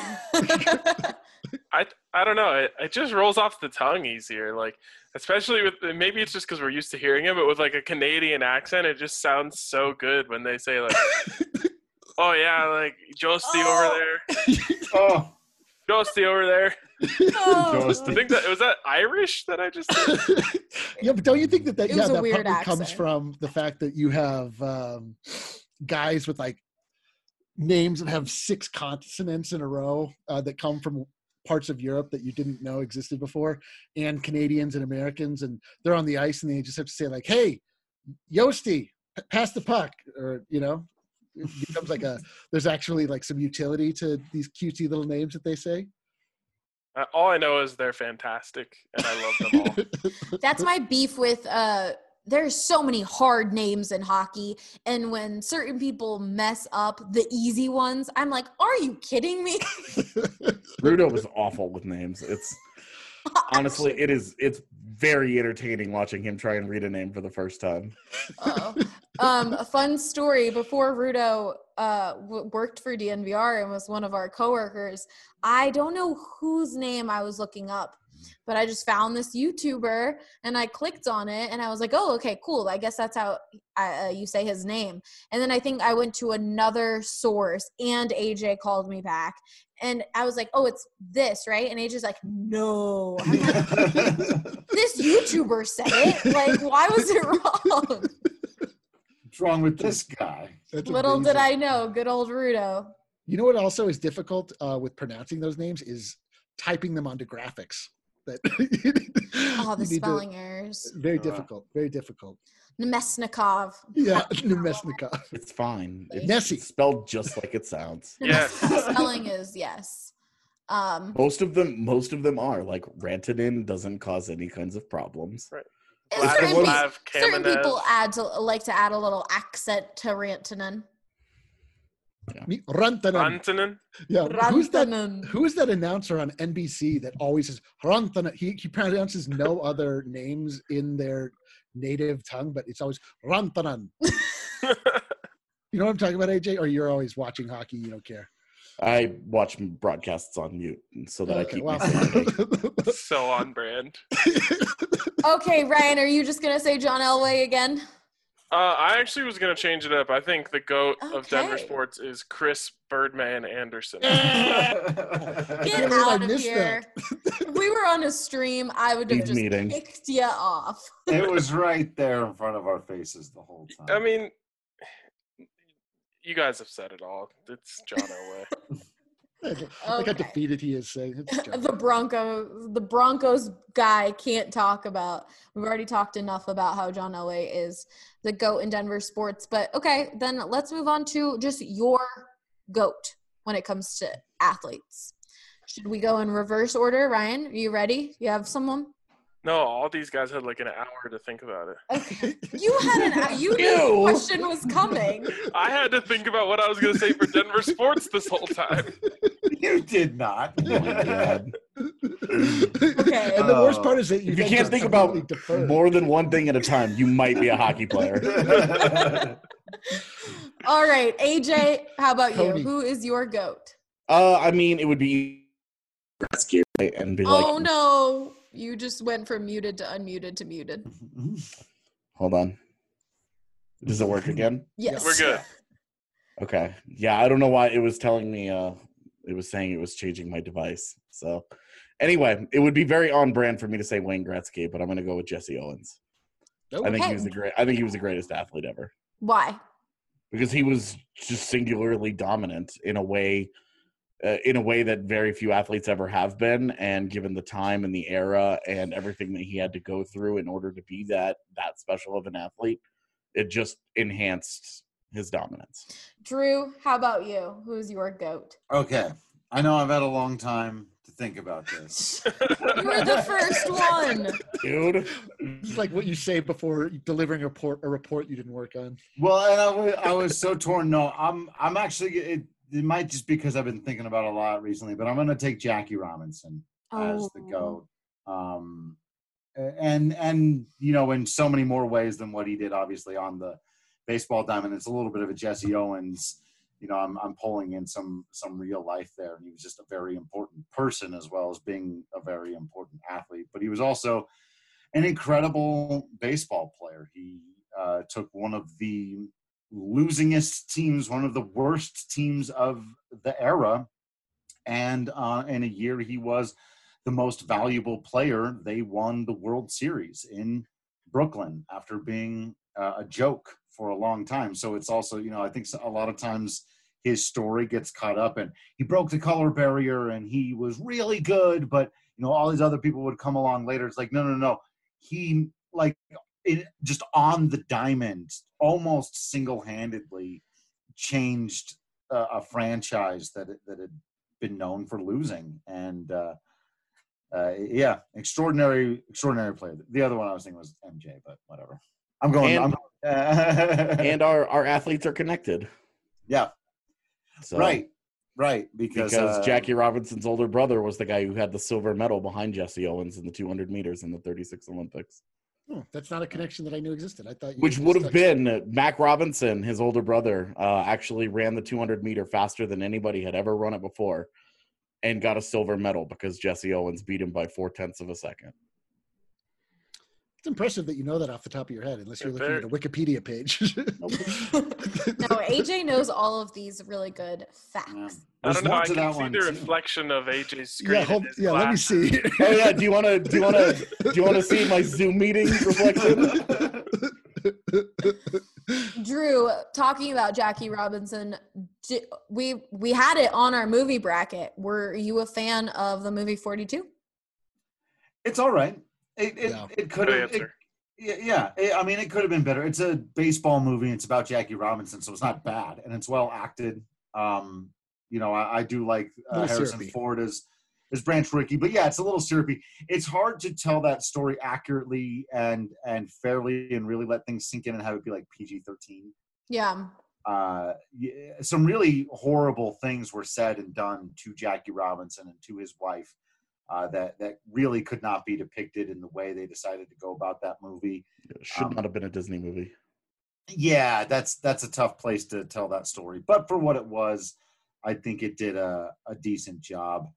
I don't know. It just rolls off the tongue easier. Like, especially with, maybe it's just because we're used to hearing it, but with like a Canadian accent, it just sounds so good when they say like, oh yeah, like Joesty over there. Oh, Joesty over there. Oh. I think was that Irish that I just said? Yeah, but don't you think that probably comes from the fact that you have guys with like names that have 6 consonants in a row that come from parts of Europe that you didn't know existed before, and Canadians and Americans, and they're on the ice and they just have to say like, hey, Joesty, pass the puck, or, you know, it becomes like there's actually like some utility to these cutesy little names that they say. All I know is they're fantastic and I love them all. That's my beef with there's so many hard names in hockey, and when certain people mess up the easy ones, I'm like, are you kidding me? Rudo was awful with names. It's honestly, it's very entertaining watching him try and read a name for the first time. A fun story: before Rudo worked for DNVR and was one of our coworkers, I don't know whose name I was looking up, but I just found this YouTuber and I clicked on it and I was like, oh, okay, cool. I guess that's how you say his name. And then I think I went to another source and AJ called me back and I was like, oh, it's this, right? And AJ's like, no. I'm like, this YouTuber said it. Like, why was it wrong? What's wrong with this guy? That's Little amazing. did I know, good old Rudo. You know what also is difficult with pronouncing those names is typing them onto graphics. That Oh, the you need to- spelling errors. Very difficult. Very difficult. Nemesnikov. Yeah, Nemesnikov. It's fine. It's Nessie. spelled just like it sounds. Yeah. Spelling is yes. Most of them are like Rantanen doesn't cause any kinds of problems. Right. And Vladislav certain Kamenev. people like to add a little accent to Rantanen. Rantanen. Rantanen. Yeah, Rantanen. who is that announcer on NBC that always says Rantanen? He pronounces no other names in their native tongue, but it's always Rantanen. You know what I'm talking about, AJ? Or you're always watching hockey, you don't care? I watch broadcasts on mute so that I keep my sanity. So on brand. Okay, Ryan, are you just gonna say John Elway again? I actually was going to change it up. I think the GOAT of Denver Okay. sports is Chris Birdman Anderson. Get believe I out of missed here. If we were on a stream, I would have Leave just meeting. kicked you off. It was right there in front of our faces the whole time. I mean, you guys have said it all. It's John Elway. Look how Okay. defeated he is saying it's John. The Broncos guy can't talk about. We've already talked enough about how John Elway is the GOAT in Denver sports. But okay, then let's move on to just your GOAT when it comes to athletes. Should we go in reverse order? Ryan, are you ready? You have someone? No, all these guys had like an hour to think about it. Okay. You knew the question was coming. I had to think about what I was going to say for Denver sports this whole time. You did not. Oh my God. Okay. And the worst part is that If you then can't just think about completely defer. more than one thing at a time, you might be a hockey player. All right, AJ, how about Tony. you? Who is your GOAT? I mean, it would be Gretzky, right? And be like, Oh no. You just went from muted to unmuted to muted. hold on. Does it work again? Yes. We're good. Okay. Yeah, I don't know why it was telling me it was saying it was changing my device. So anyway, it would be very on brand for me to say Wayne Gretzky, but I'm gonna go with Jesse Owens. I think Okay. he was the greatest athlete ever. Why? Because he was just singularly dominant in a way that very few athletes ever have been, and given the time and the era and everything that he had to go through in order to be that special of an athlete, it just enhanced his dominance. Drew, how about you? Who's your GOAT? Okay. I know I've had a long time to think about this. You were the first one. Dude, It's like what you say before delivering a report you didn't work on. Well, and I was so torn. No, I'm actually it might just because I've been thinking about it a lot recently, but I'm going to take Jackie Robinson as the GOAT. And you know, in so many more ways than what he did, obviously on the baseball diamond. It's a little bit of a Jesse Owens. You know, I'm pulling in some real life there, and he was just a very important person as well as being a very important athlete. But he was also an incredible baseball player. He took one of the losingest teams, one of the worst teams of the era, and in a year he was the most valuable player. They won the World Series in Brooklyn after being a joke for a long time. So it's also, you know, I think a lot of times his story gets caught up, and he broke the color barrier and he was really good, but you know, all these other people would come along later. It's like, no. He just on the diamond, almost single-handedly changed a franchise that had been known for losing. And yeah, extraordinary player. The other one I was thinking was MJ, but whatever. I'm going. And our athletes are connected. Yeah. So, Right. Because Jackie Robinson's older brother was the guy who had the silver medal behind Jesse Owens in the 200 meters in the 36 Olympics. Oh, that's not a connection that I knew existed. I thought Which would have been Mac Robinson, his older brother, actually ran the 200 meter faster than anybody had ever run it before. and got a silver medal because Jesse Owens beat him by 0.4 of a second. It's impressive that you know that off the top of your head, unless you're looking at a Wikipedia page. No, AJ knows all of these really good facts. Yeah. I don't know. I can see one, the too. reflection of AJ's screen. Let me see. Oh yeah, do you want to see my Zoom meeting reflection? Drew, talking about Jackie Robinson, we had it on our movie bracket. Were you a fan of the movie 42? It's all right. It could have. I mean, it could have been better. It's a baseball movie. It's about Jackie Robinson, so it's not bad, and it's well acted. I do like Harrison Ford as Branch Rickey, but yeah, it's a little syrupy. It's hard to tell that story accurately and fairly, and really let things sink in and have it be like PG-13. Yeah. Some really horrible things were said and done to Jackie Robinson and to his wife. That really could not be depicted in the way they decided to go about that movie. It should not have been a Disney movie. Yeah, that's a tough place to tell that story. But for what it was, I think it did a decent job.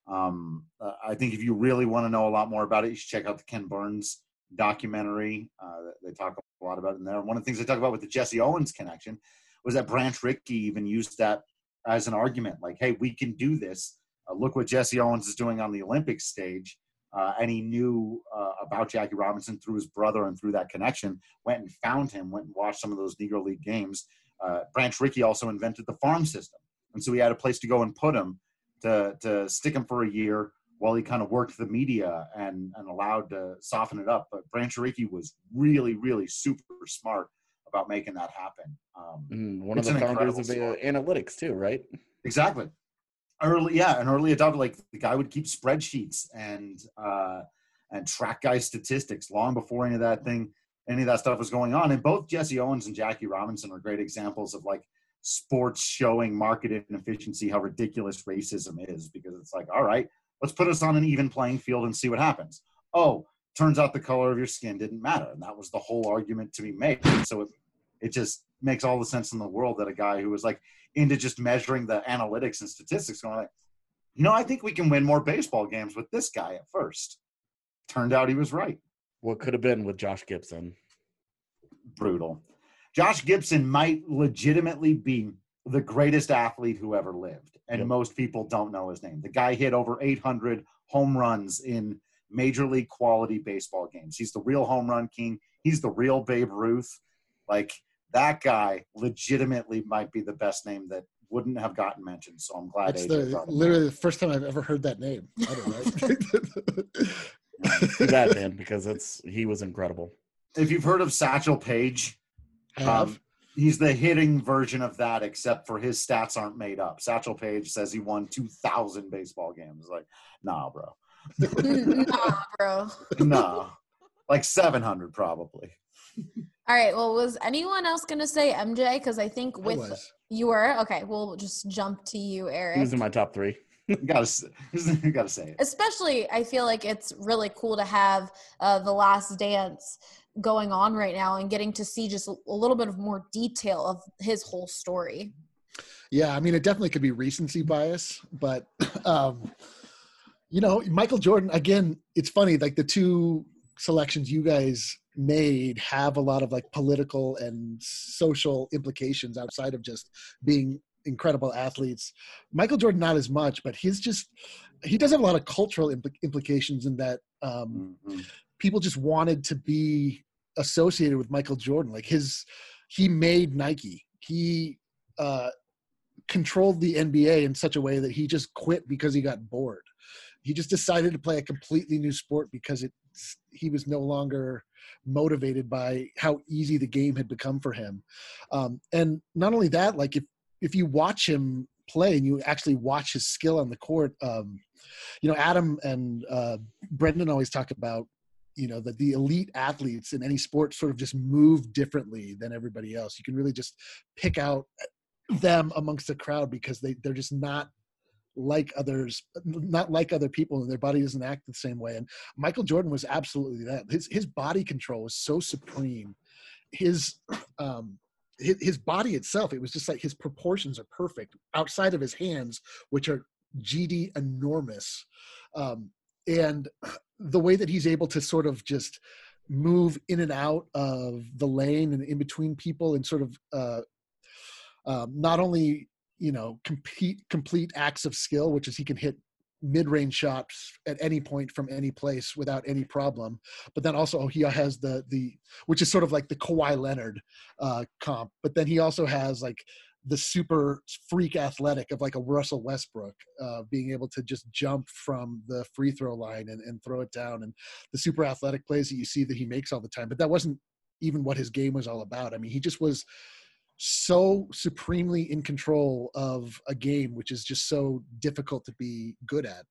I think if you really want to know a lot more about it, you should check out the Ken Burns documentary. They talk a lot about it in there. One of the things they talk about with the Jesse Owens connection was that Branch Rickey even used that as an argument. Like, hey, we can do this. Look what Jesse Owens is doing on the Olympic stage. And he knew about Jackie Robinson through his brother and through that connection, went and found him, went and watched some of those Negro League games. Branch Rickey also invented the farm system. And so he had a place to go and put him to stick him for a year while he kind of worked the media and allowed to soften it up. But Branch Rickey was really, really super smart about making that happen. One of the founders of analytics too, right? Exactly. An early adopter. Like, the guy would keep spreadsheets and track guy statistics long before any of that stuff was going on. And both Jesse Owens and Jackie Robinson are great examples of like sports showing market inefficiency, how ridiculous racism is, because it's like, all right, let's put us on an even playing field and see what happens. Oh, turns out the color of your skin didn't matter. And that was the whole argument to be made. So it just makes all the sense in the world that a guy who was like into just measuring the analytics and statistics going like, I think we can win more baseball games with this guy at first. Turned out he was right. What could have been with Josh Gibson? Brutal. Josh Gibson might legitimately be the greatest athlete who ever lived. And most people don't know his name. The guy hit over 800 home runs in major league quality baseball games. He's the real home run king. He's the real Babe Ruth. Like, that guy legitimately might be the best name that wouldn't have gotten mentioned. So I'm glad. It's literally the first time I've ever heard that name. Too bad, man, because he was incredible. If you've heard of Satchel Paige, he's the hitting version of that, except for his stats aren't made up. Satchel Paige says he won 2,000 baseball games. Like, nah, bro. Nah, bro. Nah. Like 700 probably. All right. Well, was anyone else going to say MJ? Because I think you were. Okay. We'll just jump to you, Eric. He was in my top 3. You gotta say it. Especially, I feel like it's really cool to have The Last Dance going on right now and getting to see just a little bit of more detail of his whole story. Yeah, I mean, it definitely could be recency bias, but Michael Jordan, again, it's funny, like the two selections you guys made have a lot of like political and social implications outside of just being incredible athletes. Michael Jordan, not as much, but he does have a lot of cultural implications in that people just wanted to be associated with Michael Jordan. Like he made Nike. He controlled the NBA in such a way that he just quit because he got bored. He just decided to play a completely new sport because he was no longer motivated by how easy the game had become for him. And not only that, like if you watch him play and you actually watch his skill on the court, Adam and Brendan always talk about, that the elite athletes in any sport sort of just move differently than everybody else. You can really just pick out them amongst the crowd because they're just not like other people, and their body doesn't act the same way. And Michael Jordan was absolutely that. His body control was so supreme. His body itself, it was just like his proportions are perfect outside of his hands, which are GD enormous. And the way that he's able to sort of just move in and out of the lane and in between people and sort of not only, complete acts of skill, which is he can hit mid-range shots at any point from any place without any problem, but then also he has the which is sort of like the Kawhi Leonard comp, but then he also has like the super freak athletic of like a Russell Westbrook, being able to just jump from the free throw line and throw it down, and the super athletic plays that you see that he makes all the time. But that wasn't even what his game was all about. I mean, he just was so supremely in control of a game, which is just so difficult to be good at.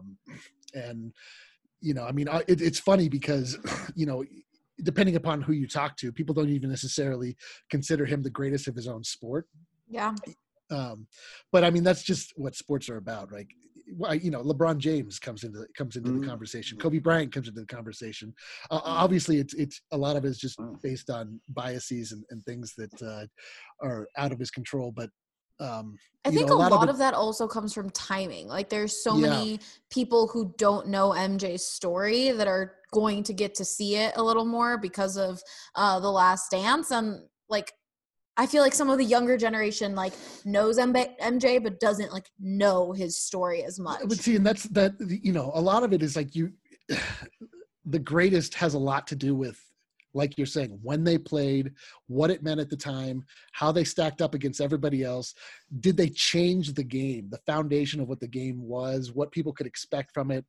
It's funny because, depending upon who you talk to, people don't even necessarily consider him the greatest of his own sport. Yeah. But I mean, that's just what sports are about, right? LeBron James comes into the conversation. Kobe Bryant comes into the conversation. Obviously, it's a lot of it is just based on biases and things that are out of his control. But I think a lot of that also comes from timing. Like, there's so many people who don't know MJ's story that are going to get to see it a little more because of The Last Dance, and like, I feel like some of the younger generation like knows MJ, but doesn't like know his story as much. But see, and that's a lot of it is like the greatest has a lot to do with, like you're saying, when they played, what it meant at the time, how they stacked up against everybody else. Did they change the game, the foundation of what the game was, what people could expect from it?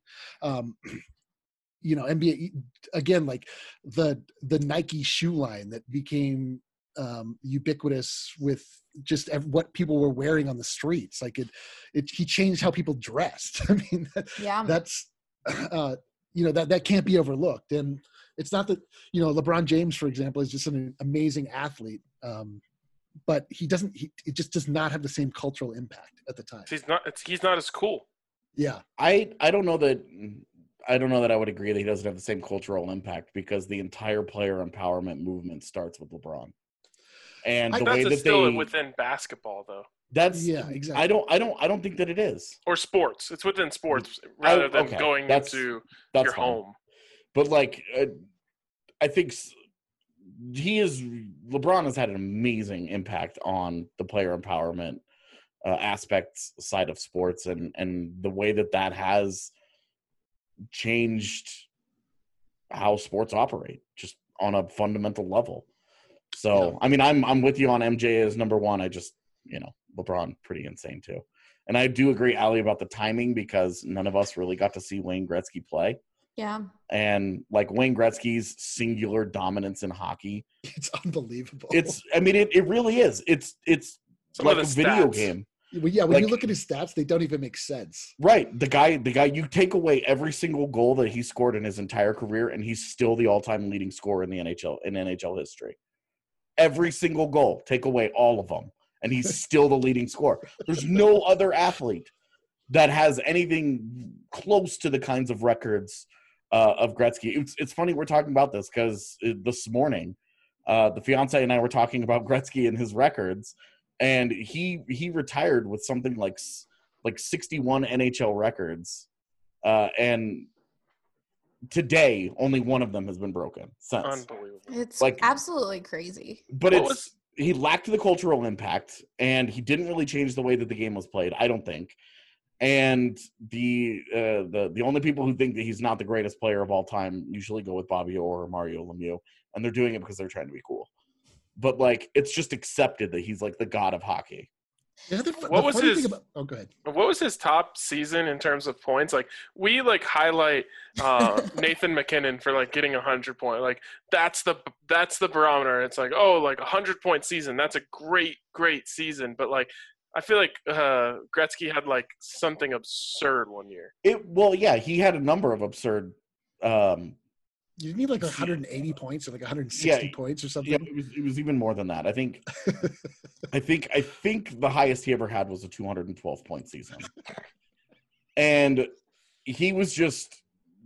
NBA, again, like the Nike shoe line that became ubiquitous with just what people were wearing on the streets. Like he changed how people dressed. I mean, that's that can't be overlooked. And it's not that, LeBron James, for example, is just an amazing athlete. But he just does not have the same cultural impact at the time. He's not as cool. Yeah. I don't know that I would agree that he doesn't have the same cultural impact, because the entire player empowerment movement starts with LeBron. And the way that still within basketball, though. Exactly. I don't think that it is. Or sports. It's within sports rather than going into your home. But like, I think LeBron has had an amazing impact on the player empowerment aspects side of sports, and the way that has changed how sports operate just on a fundamental level. So, I mean, I'm with you on MJ as number one. I just, LeBron pretty insane too. And I do agree, Ali, about the timing, because none of us really got to see Wayne Gretzky play. Yeah. And like Wayne Gretzky's singular dominance in hockey. It's unbelievable. It really is. It's like a video game. Well, yeah, when you look at his stats, they don't even make sense. Right. The guy, you take away every single goal that he scored in his entire career, and he's still the all-time leading scorer in the NHL, in NHL history. Every single goal, take away all of them, and he's still the leading scorer. There's no other athlete that has anything close to the kinds of records of Gretzky. It's funny we're talking about this, because this morning, the fiance and I were talking about Gretzky and his records, and he retired with something like 61 NHL records, and today only one of them has been broken since. Unbelievable. It's like absolutely crazy. But he lacked the cultural impact, and he didn't really change the way that the game was played, I don't think. And the only people who think that he's not the greatest player of all time usually go with Bobby Orr or Mario Lemieux, and they're doing it because they're trying to be cool. But like, it's just accepted that he's like the god of hockey. Yeah, what was his? go ahead. What was his top season in terms of points? Like, we like highlight Nathan McKinnon for like getting 100 points. Like, that's the barometer. It's like, oh, like 100-point season. That's a great season. But like, I feel like Gretzky had like something absurd one year. He had a number of absurd. You need like 180 points or like 160 points or something. Yeah, it was even more than that. I think the highest he ever had was a 212-point season. And he was just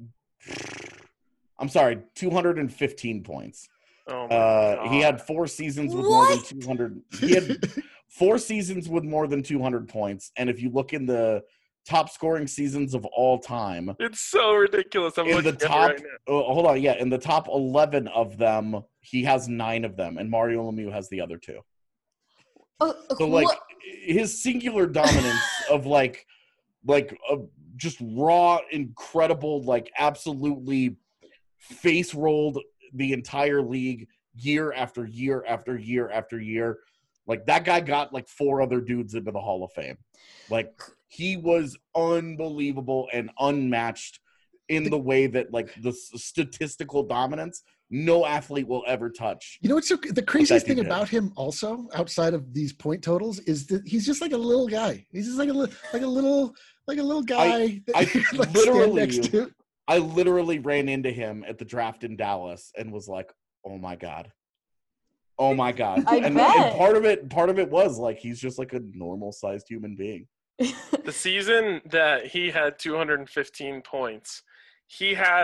215 points. Oh my God. He had 4 seasons with more than 200. He had 4 seasons with more than 200 points. And if you look in the top scoring seasons of all time. It's so ridiculous. I'm In looking the top, at it right now. hold on, yeah, in the top 11 of them, he has 9 of them, and Mario Lemieux has the other 2. So like his singular dominance of like just raw, incredible, like absolutely face rolled the entire league year after year after year after year. Like that guy got like 4 other dudes into the Hall of Fame. Like he was unbelievable and unmatched in the way that like the statistical dominance no athlete will ever touch. You know what's the craziest thing about him also, outside of these point totals, is that he's just like a little guy. He's just like a little guy. I literally ran into him at the draft in Dallas and was like, oh my God. And part of it was like he's just like a normal sized human being. The season that he had 215 points, he had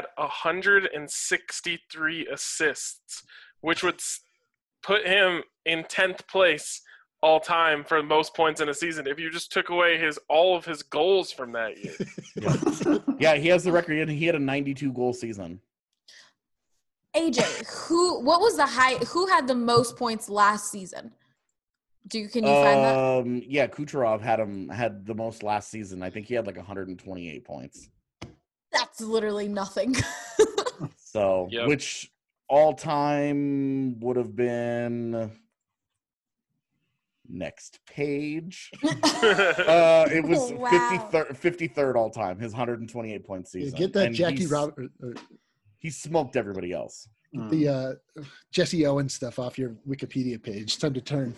163 assists, which would put him in 10th place all time for most points in a season if you just took away all of his goals from that year. Yeah, he has the record. He had a 92 goal season. AJ, what was the who had the most points last season? Can you find that? Yeah, Kucherov had the most last season. I think he had like 128 points. That's literally nothing. So, yep. Which all time would have been next page. It was 53rd all time. His 128 point season. Get that, and Jackie Robert. He smoked everybody else. Get the Jesse Owens stuff off your Wikipedia page. It's time to turn.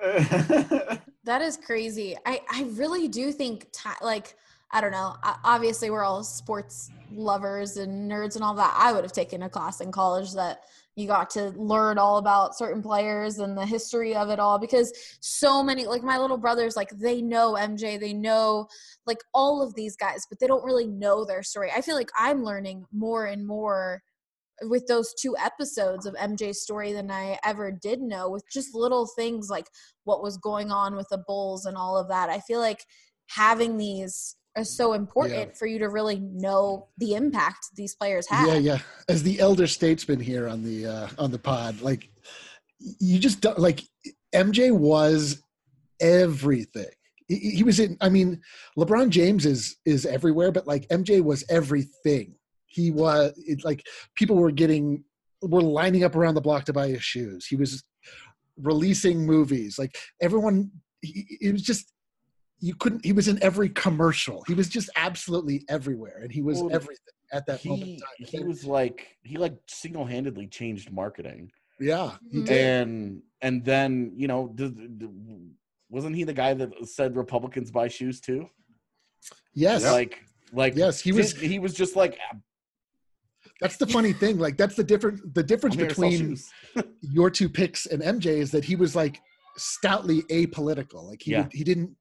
That is crazy. I really do think I don't know. Obviously, we're all sports lovers and nerds and all that. I would have taken a class in college that you got to learn all about certain players and the history of it all, because so many, like my little brothers, like they know MJ, they know like all of these guys, but they don't really know their story. I feel like I'm learning more and more with those 2 episodes of MJ's story than I ever did know, with just little things like what was going on with the Bulls and all of that. I feel like having these is so important for you to really know the impact these players have. Yeah. As the elder statesman here on the pod, like you just don't, like MJ was everything. He was in. I mean, LeBron James is everywhere, but like MJ was everything. He was like people were lining up around the block to buy his shoes. He was releasing movies. Like everyone, it was just. He was in every commercial. He was just absolutely everywhere, and he was everything at that moment in time. He single-handedly changed marketing. Yeah, he did. And then, you know, wasn't he the guy that said Republicans buy shoes too? Yes. Yes, he was just like. That's the funny thing. Like that's the difference between your 2 picks and MJ is that he was like stoutly apolitical. Like he didn't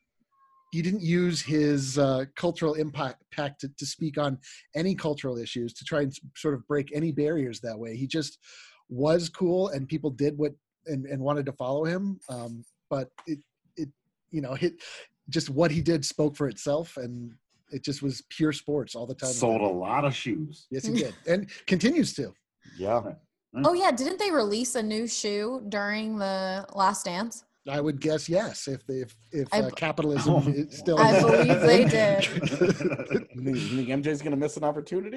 use his cultural impact to speak on any cultural issues, to try and sort of break any barriers that way. He just was cool, and people did and wanted to follow him. But just what he did spoke for itself, and it just was pure sports all the time. Sold a lot of shoes. Yes, he did, and continues to. Yeah. Oh yeah, didn't they release a new shoe during the Last Dance? I would guess yes. If capitalism is still, I believe they did. You think MJ's going to miss an opportunity?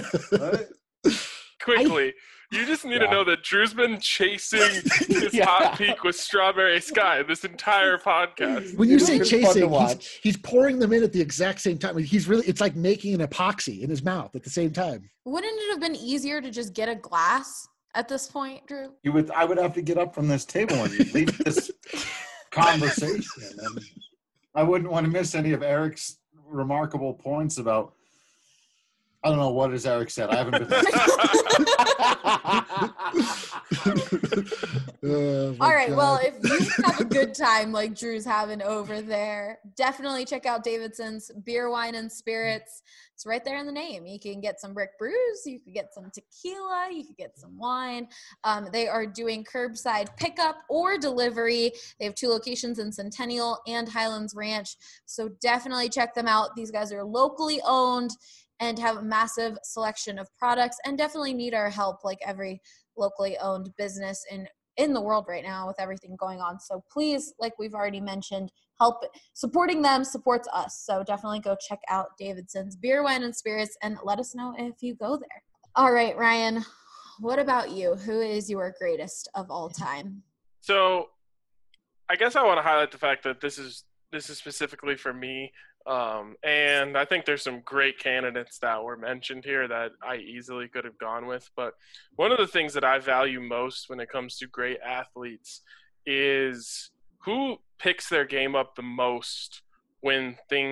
Quickly, you just need to know that Drew's been chasing his hot peak with Strawberry Sky this entire podcast. When you say chasing, he's pouring them in at the exact same time. It's like making an epoxy in his mouth at the same time. Wouldn't it have been easier to just get a glass at this point, Drew? I would have to get up from this table and leave this conversation. And I wouldn't want to miss any of Eric's remarkable points about. I don't know what has Eric said. I haven't been. Oh, my All right. Well, God. if you have a good time like Drew's having over there, definitely check out Davidson's Beer, Wine, and Spirits. It's right there in the name. You can get some Brick Brews. You can get some tequila. You can get some wine. They are doing curbside pickup or delivery. They have 2 locations in Centennial and Highlands Ranch. So definitely check them out. These guys are locally owned and have a massive selection of products and definitely need our help like every locally owned business in the world right now with everything going on. So please, like we've already mentioned, help. Supporting them supports us. So definitely go check out Davidson's Beer, Wine, and Spirits and let us know if you go there. All right, Ryan, what about you? Who is your greatest of all time? So I guess I want to highlight the fact that this is specifically for me. And I think there's some great candidates that were mentioned here that I easily could have gone with. But one of the things that I value most when it comes to great athletes is who picks their game up the most when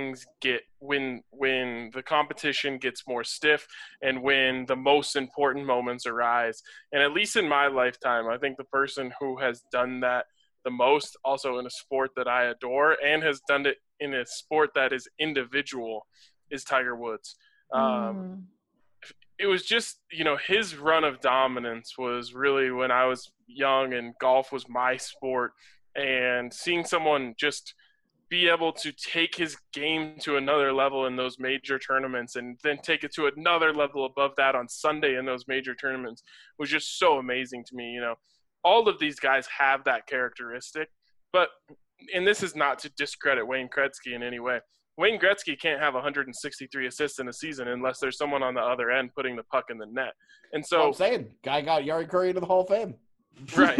when the competition gets more stiff and when the most important moments arise. And at least in my lifetime, I think the person who has done that the most, also in a sport that I adore and has done it in a sport that is individual, is Tiger Woods. It was just, his run of dominance was really when I was young and golf was my sport, and seeing someone just be able to take his game to another level in those major tournaments and then take it to another level above that on Sunday in those major tournaments was just so amazing to me. All of these guys have that characteristic, and this is not to discredit Wayne Gretzky in any way. Wayne Gretzky can't have 163 assists in a season unless there's someone on the other end putting the puck in the net. And so I'm saying, guy got Yari Curry into the Hall of Fame. Right.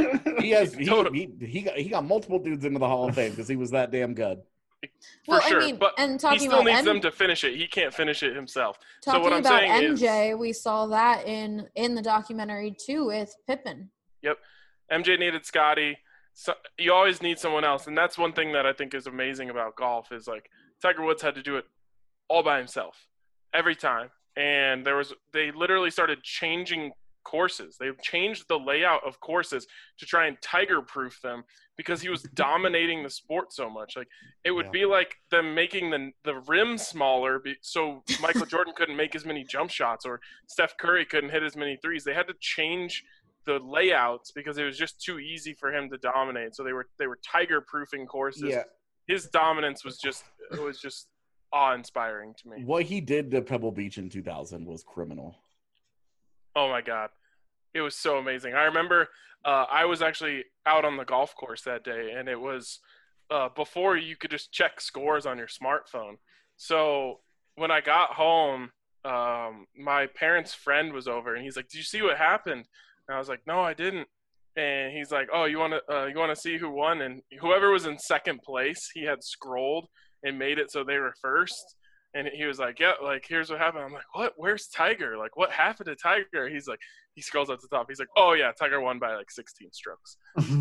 He got multiple dudes into the Hall of Fame because he was that damn good. For sure, but and he still needs them to finish it. He can't finish it himself. Talking so what I'm about saying MJ, we saw that in the documentary too with Pippen. Yep. MJ needed Scotty. So you always need someone else, and that's one thing that I think is amazing about golf is like Tiger Woods had to do it all by himself every time, and they literally started changing courses. They changed the layout of courses to try and Tiger-proof them because he was dominating the sport so much. Like it would be like them making the rim smaller so Michael Jordan couldn't make as many jump shots or Steph Curry couldn't hit as many threes. They had to change the layouts because it was just too easy for him to dominate. So they were Tiger-proofing courses. Yeah. His dominance was just awe-inspiring to me. What he did to Pebble Beach in 2000 was criminal. Oh my God. It was so amazing. I remember I was actually out on the golf course that day, and it was before you could just check scores on your smartphone. So when I got home, my parents' friend was over, and he's like, "Did you see what happened?" And I was like, "No, I didn't." And he's like, "Oh, you want to see who won?" And whoever was in second place, he had scrolled and made it so they were first. And he was like, "Yeah, like here's what happened." I'm like, "What? Where's Tiger? Like, what happened to Tiger?" He's like, he scrolls up to the top. He's like, "Oh yeah, Tiger won by like 16 strokes."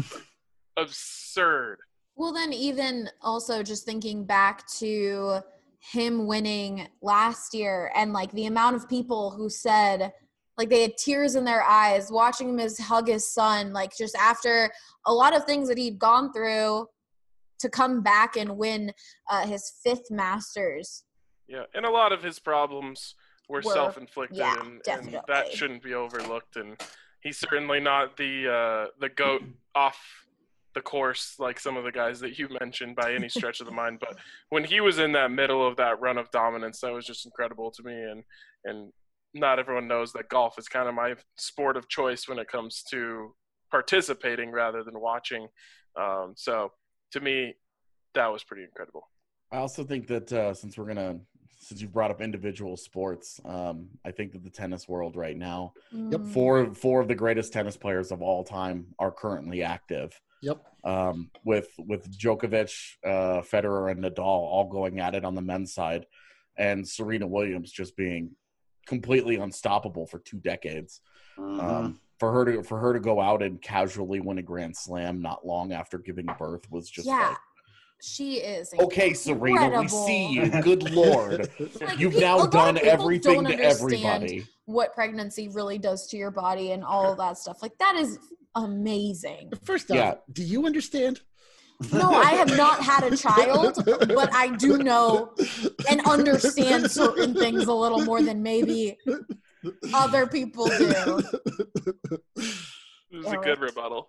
Absurd. Well, then even also just thinking back to him winning last year and like the amount of people who said like they had tears in their eyes watching him hug his son, like just after a lot of things that he'd gone through to come back and win his 5th Masters. Yeah, and a lot of his problems were self-inflicted, yeah, and that shouldn't be overlooked. And he's certainly not the GOAT off the course like some of the guys that you mentioned by any stretch of the mind. But when he was in that middle of that run of dominance, that was just incredible to me. And not everyone knows that golf is kind of my sport of choice when it comes to participating rather than watching. So to me, that was pretty incredible. I also think that since you brought up individual sports, I think that the tennis world right now, four of the greatest tennis players of all time are currently active. Yep. With Djokovic, Federer, and Nadal all going at it on the men's side, and Serena Williams just being completely unstoppable for 2 decades. For her to go out and casually win a Grand Slam not long after giving birth was just like, she is okay, Serena, we see you. Good Lord. Like, You've now done everything to everybody. What pregnancy really does to your body and all of that stuff. Like, that is amazing. First off, Yeah. do you understand? No, I have not had a child, but I do know and understand certain things a little more than maybe other people do. This is a good rebuttal.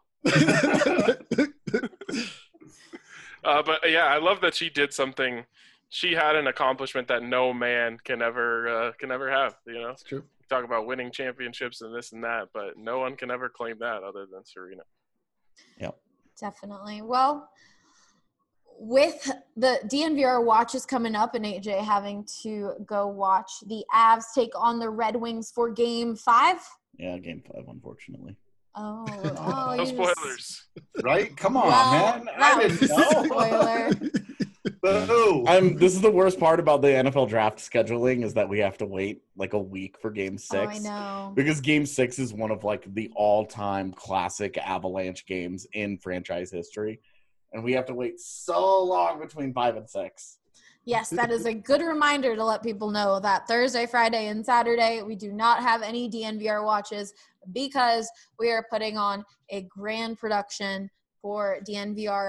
But yeah, I love that she did something. She had an accomplishment that no man can ever have. You know, It's true. talk about winning championships and this and that, but no one can ever claim that other than Serena. Yep. Definitely. Well, with the DNVR watches coming up and AJ having to go watch the Avs take on the Red Wings for Game 5. Yeah, Game 5, unfortunately. Oh, No you spoilers. Right? Come on, Well, man. that I was didn't a know. spoiler. Boo. This is the worst part about the NFL draft scheduling is that we have to wait like a week for Game 6. Oh, I know. Because Game 6 is one of like the all-time classic Avalanche games in franchise history. And we have to wait so long between 5 and 6. Yes, that is a good reminder to let people know that Thursday, Friday, and Saturday, we do not have any DNVR watches because we are putting on a grand production for DNVR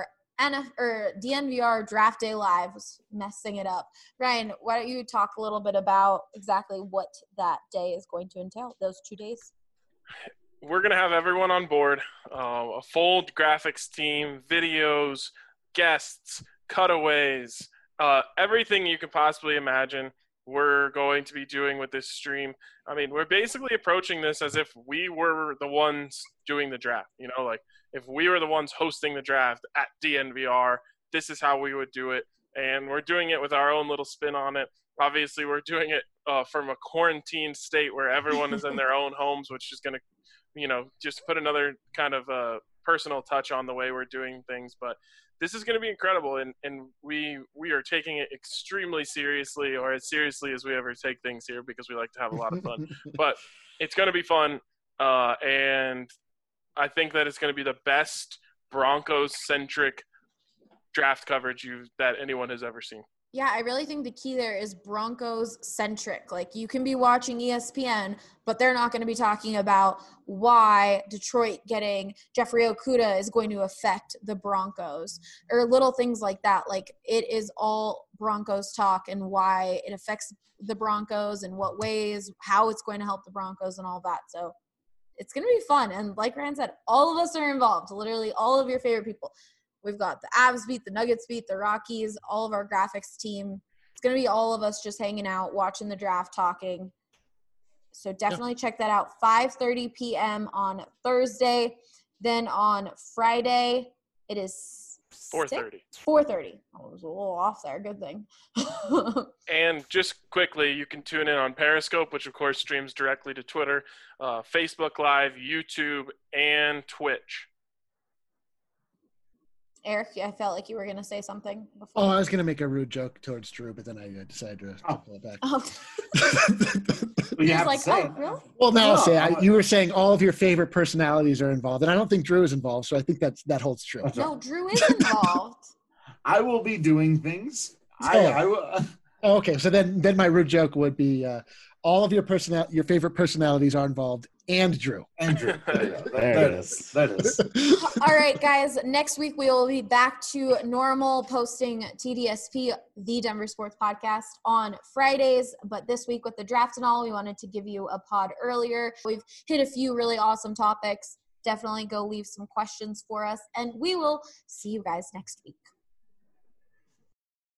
Draft Day Live. Was messing it up. Ryan, why don't you talk a little bit about exactly what that day is going to entail, those 2 days? We're going to have everyone on board, a full graphics team, videos, guests, cutaways, everything you could possibly imagine we're going to be doing with this stream. I mean, we're basically approaching this as if we were the ones doing the draft. You know, like if we were the ones hosting the draft at DNVR, this is how we would do it. And we're doing it with our own little spin on it. Obviously, we're doing it from a quarantine state where everyone is in their own homes, which is going to, you know, just put another kind of personal touch on the way we're doing things. But this is going to be incredible, and we are taking it extremely seriously, or as seriously as we ever take things here, because we like to have a lot of fun. But it's going to be fun, and I think that it's going to be the best Broncos-centric draft coverage that anyone has ever seen. Yeah, I really think the key there is Broncos-centric. Like, you can be watching ESPN, but they're not going to be talking about why Detroit getting Jeffrey Okudah is going to affect the Broncos or little things like that. Like, it is all Broncos talk and why it affects the Broncos and what ways, how it's going to help the Broncos and all that. So it's going to be fun. And like Ryan said, all of us are involved, literally all of your favorite people. We've got the Avs beat, the Nuggets beat, the Rockies, all of our graphics team. It's going to be all of us just hanging out, watching the draft, talking. So definitely check that out. 5:30 p.m. on Thursday. Then on Friday, it is 4:30. 4:30. I was a little off there. Good thing. And just quickly, you can tune in on Periscope, which of course streams directly to Twitter, Facebook Live, YouTube, and Twitch. Eric, I felt like you were going to say something before. Oh, I was going to make a rude joke towards Drew, but then I decided to pull it back. Oh. You have like, to say oh, really? Well, now I'll No, say you were saying all of your favorite personalities are involved, and I don't think Drew is involved, so I think that holds true. No, Drew is involved. I will be doing things. Oh. I will. Okay, so then my rude joke would be all of your favorite personalities are involved, and Drew. Andrew. There it is. That is. All right, guys. Next week, we will be back to normal, posting TDSP, the Denver Sports Podcast, on Fridays. But this week, with the draft and all, we wanted to give you a pod earlier. We've hit a few really awesome topics. Definitely go leave some questions for us, and we will see you guys next week.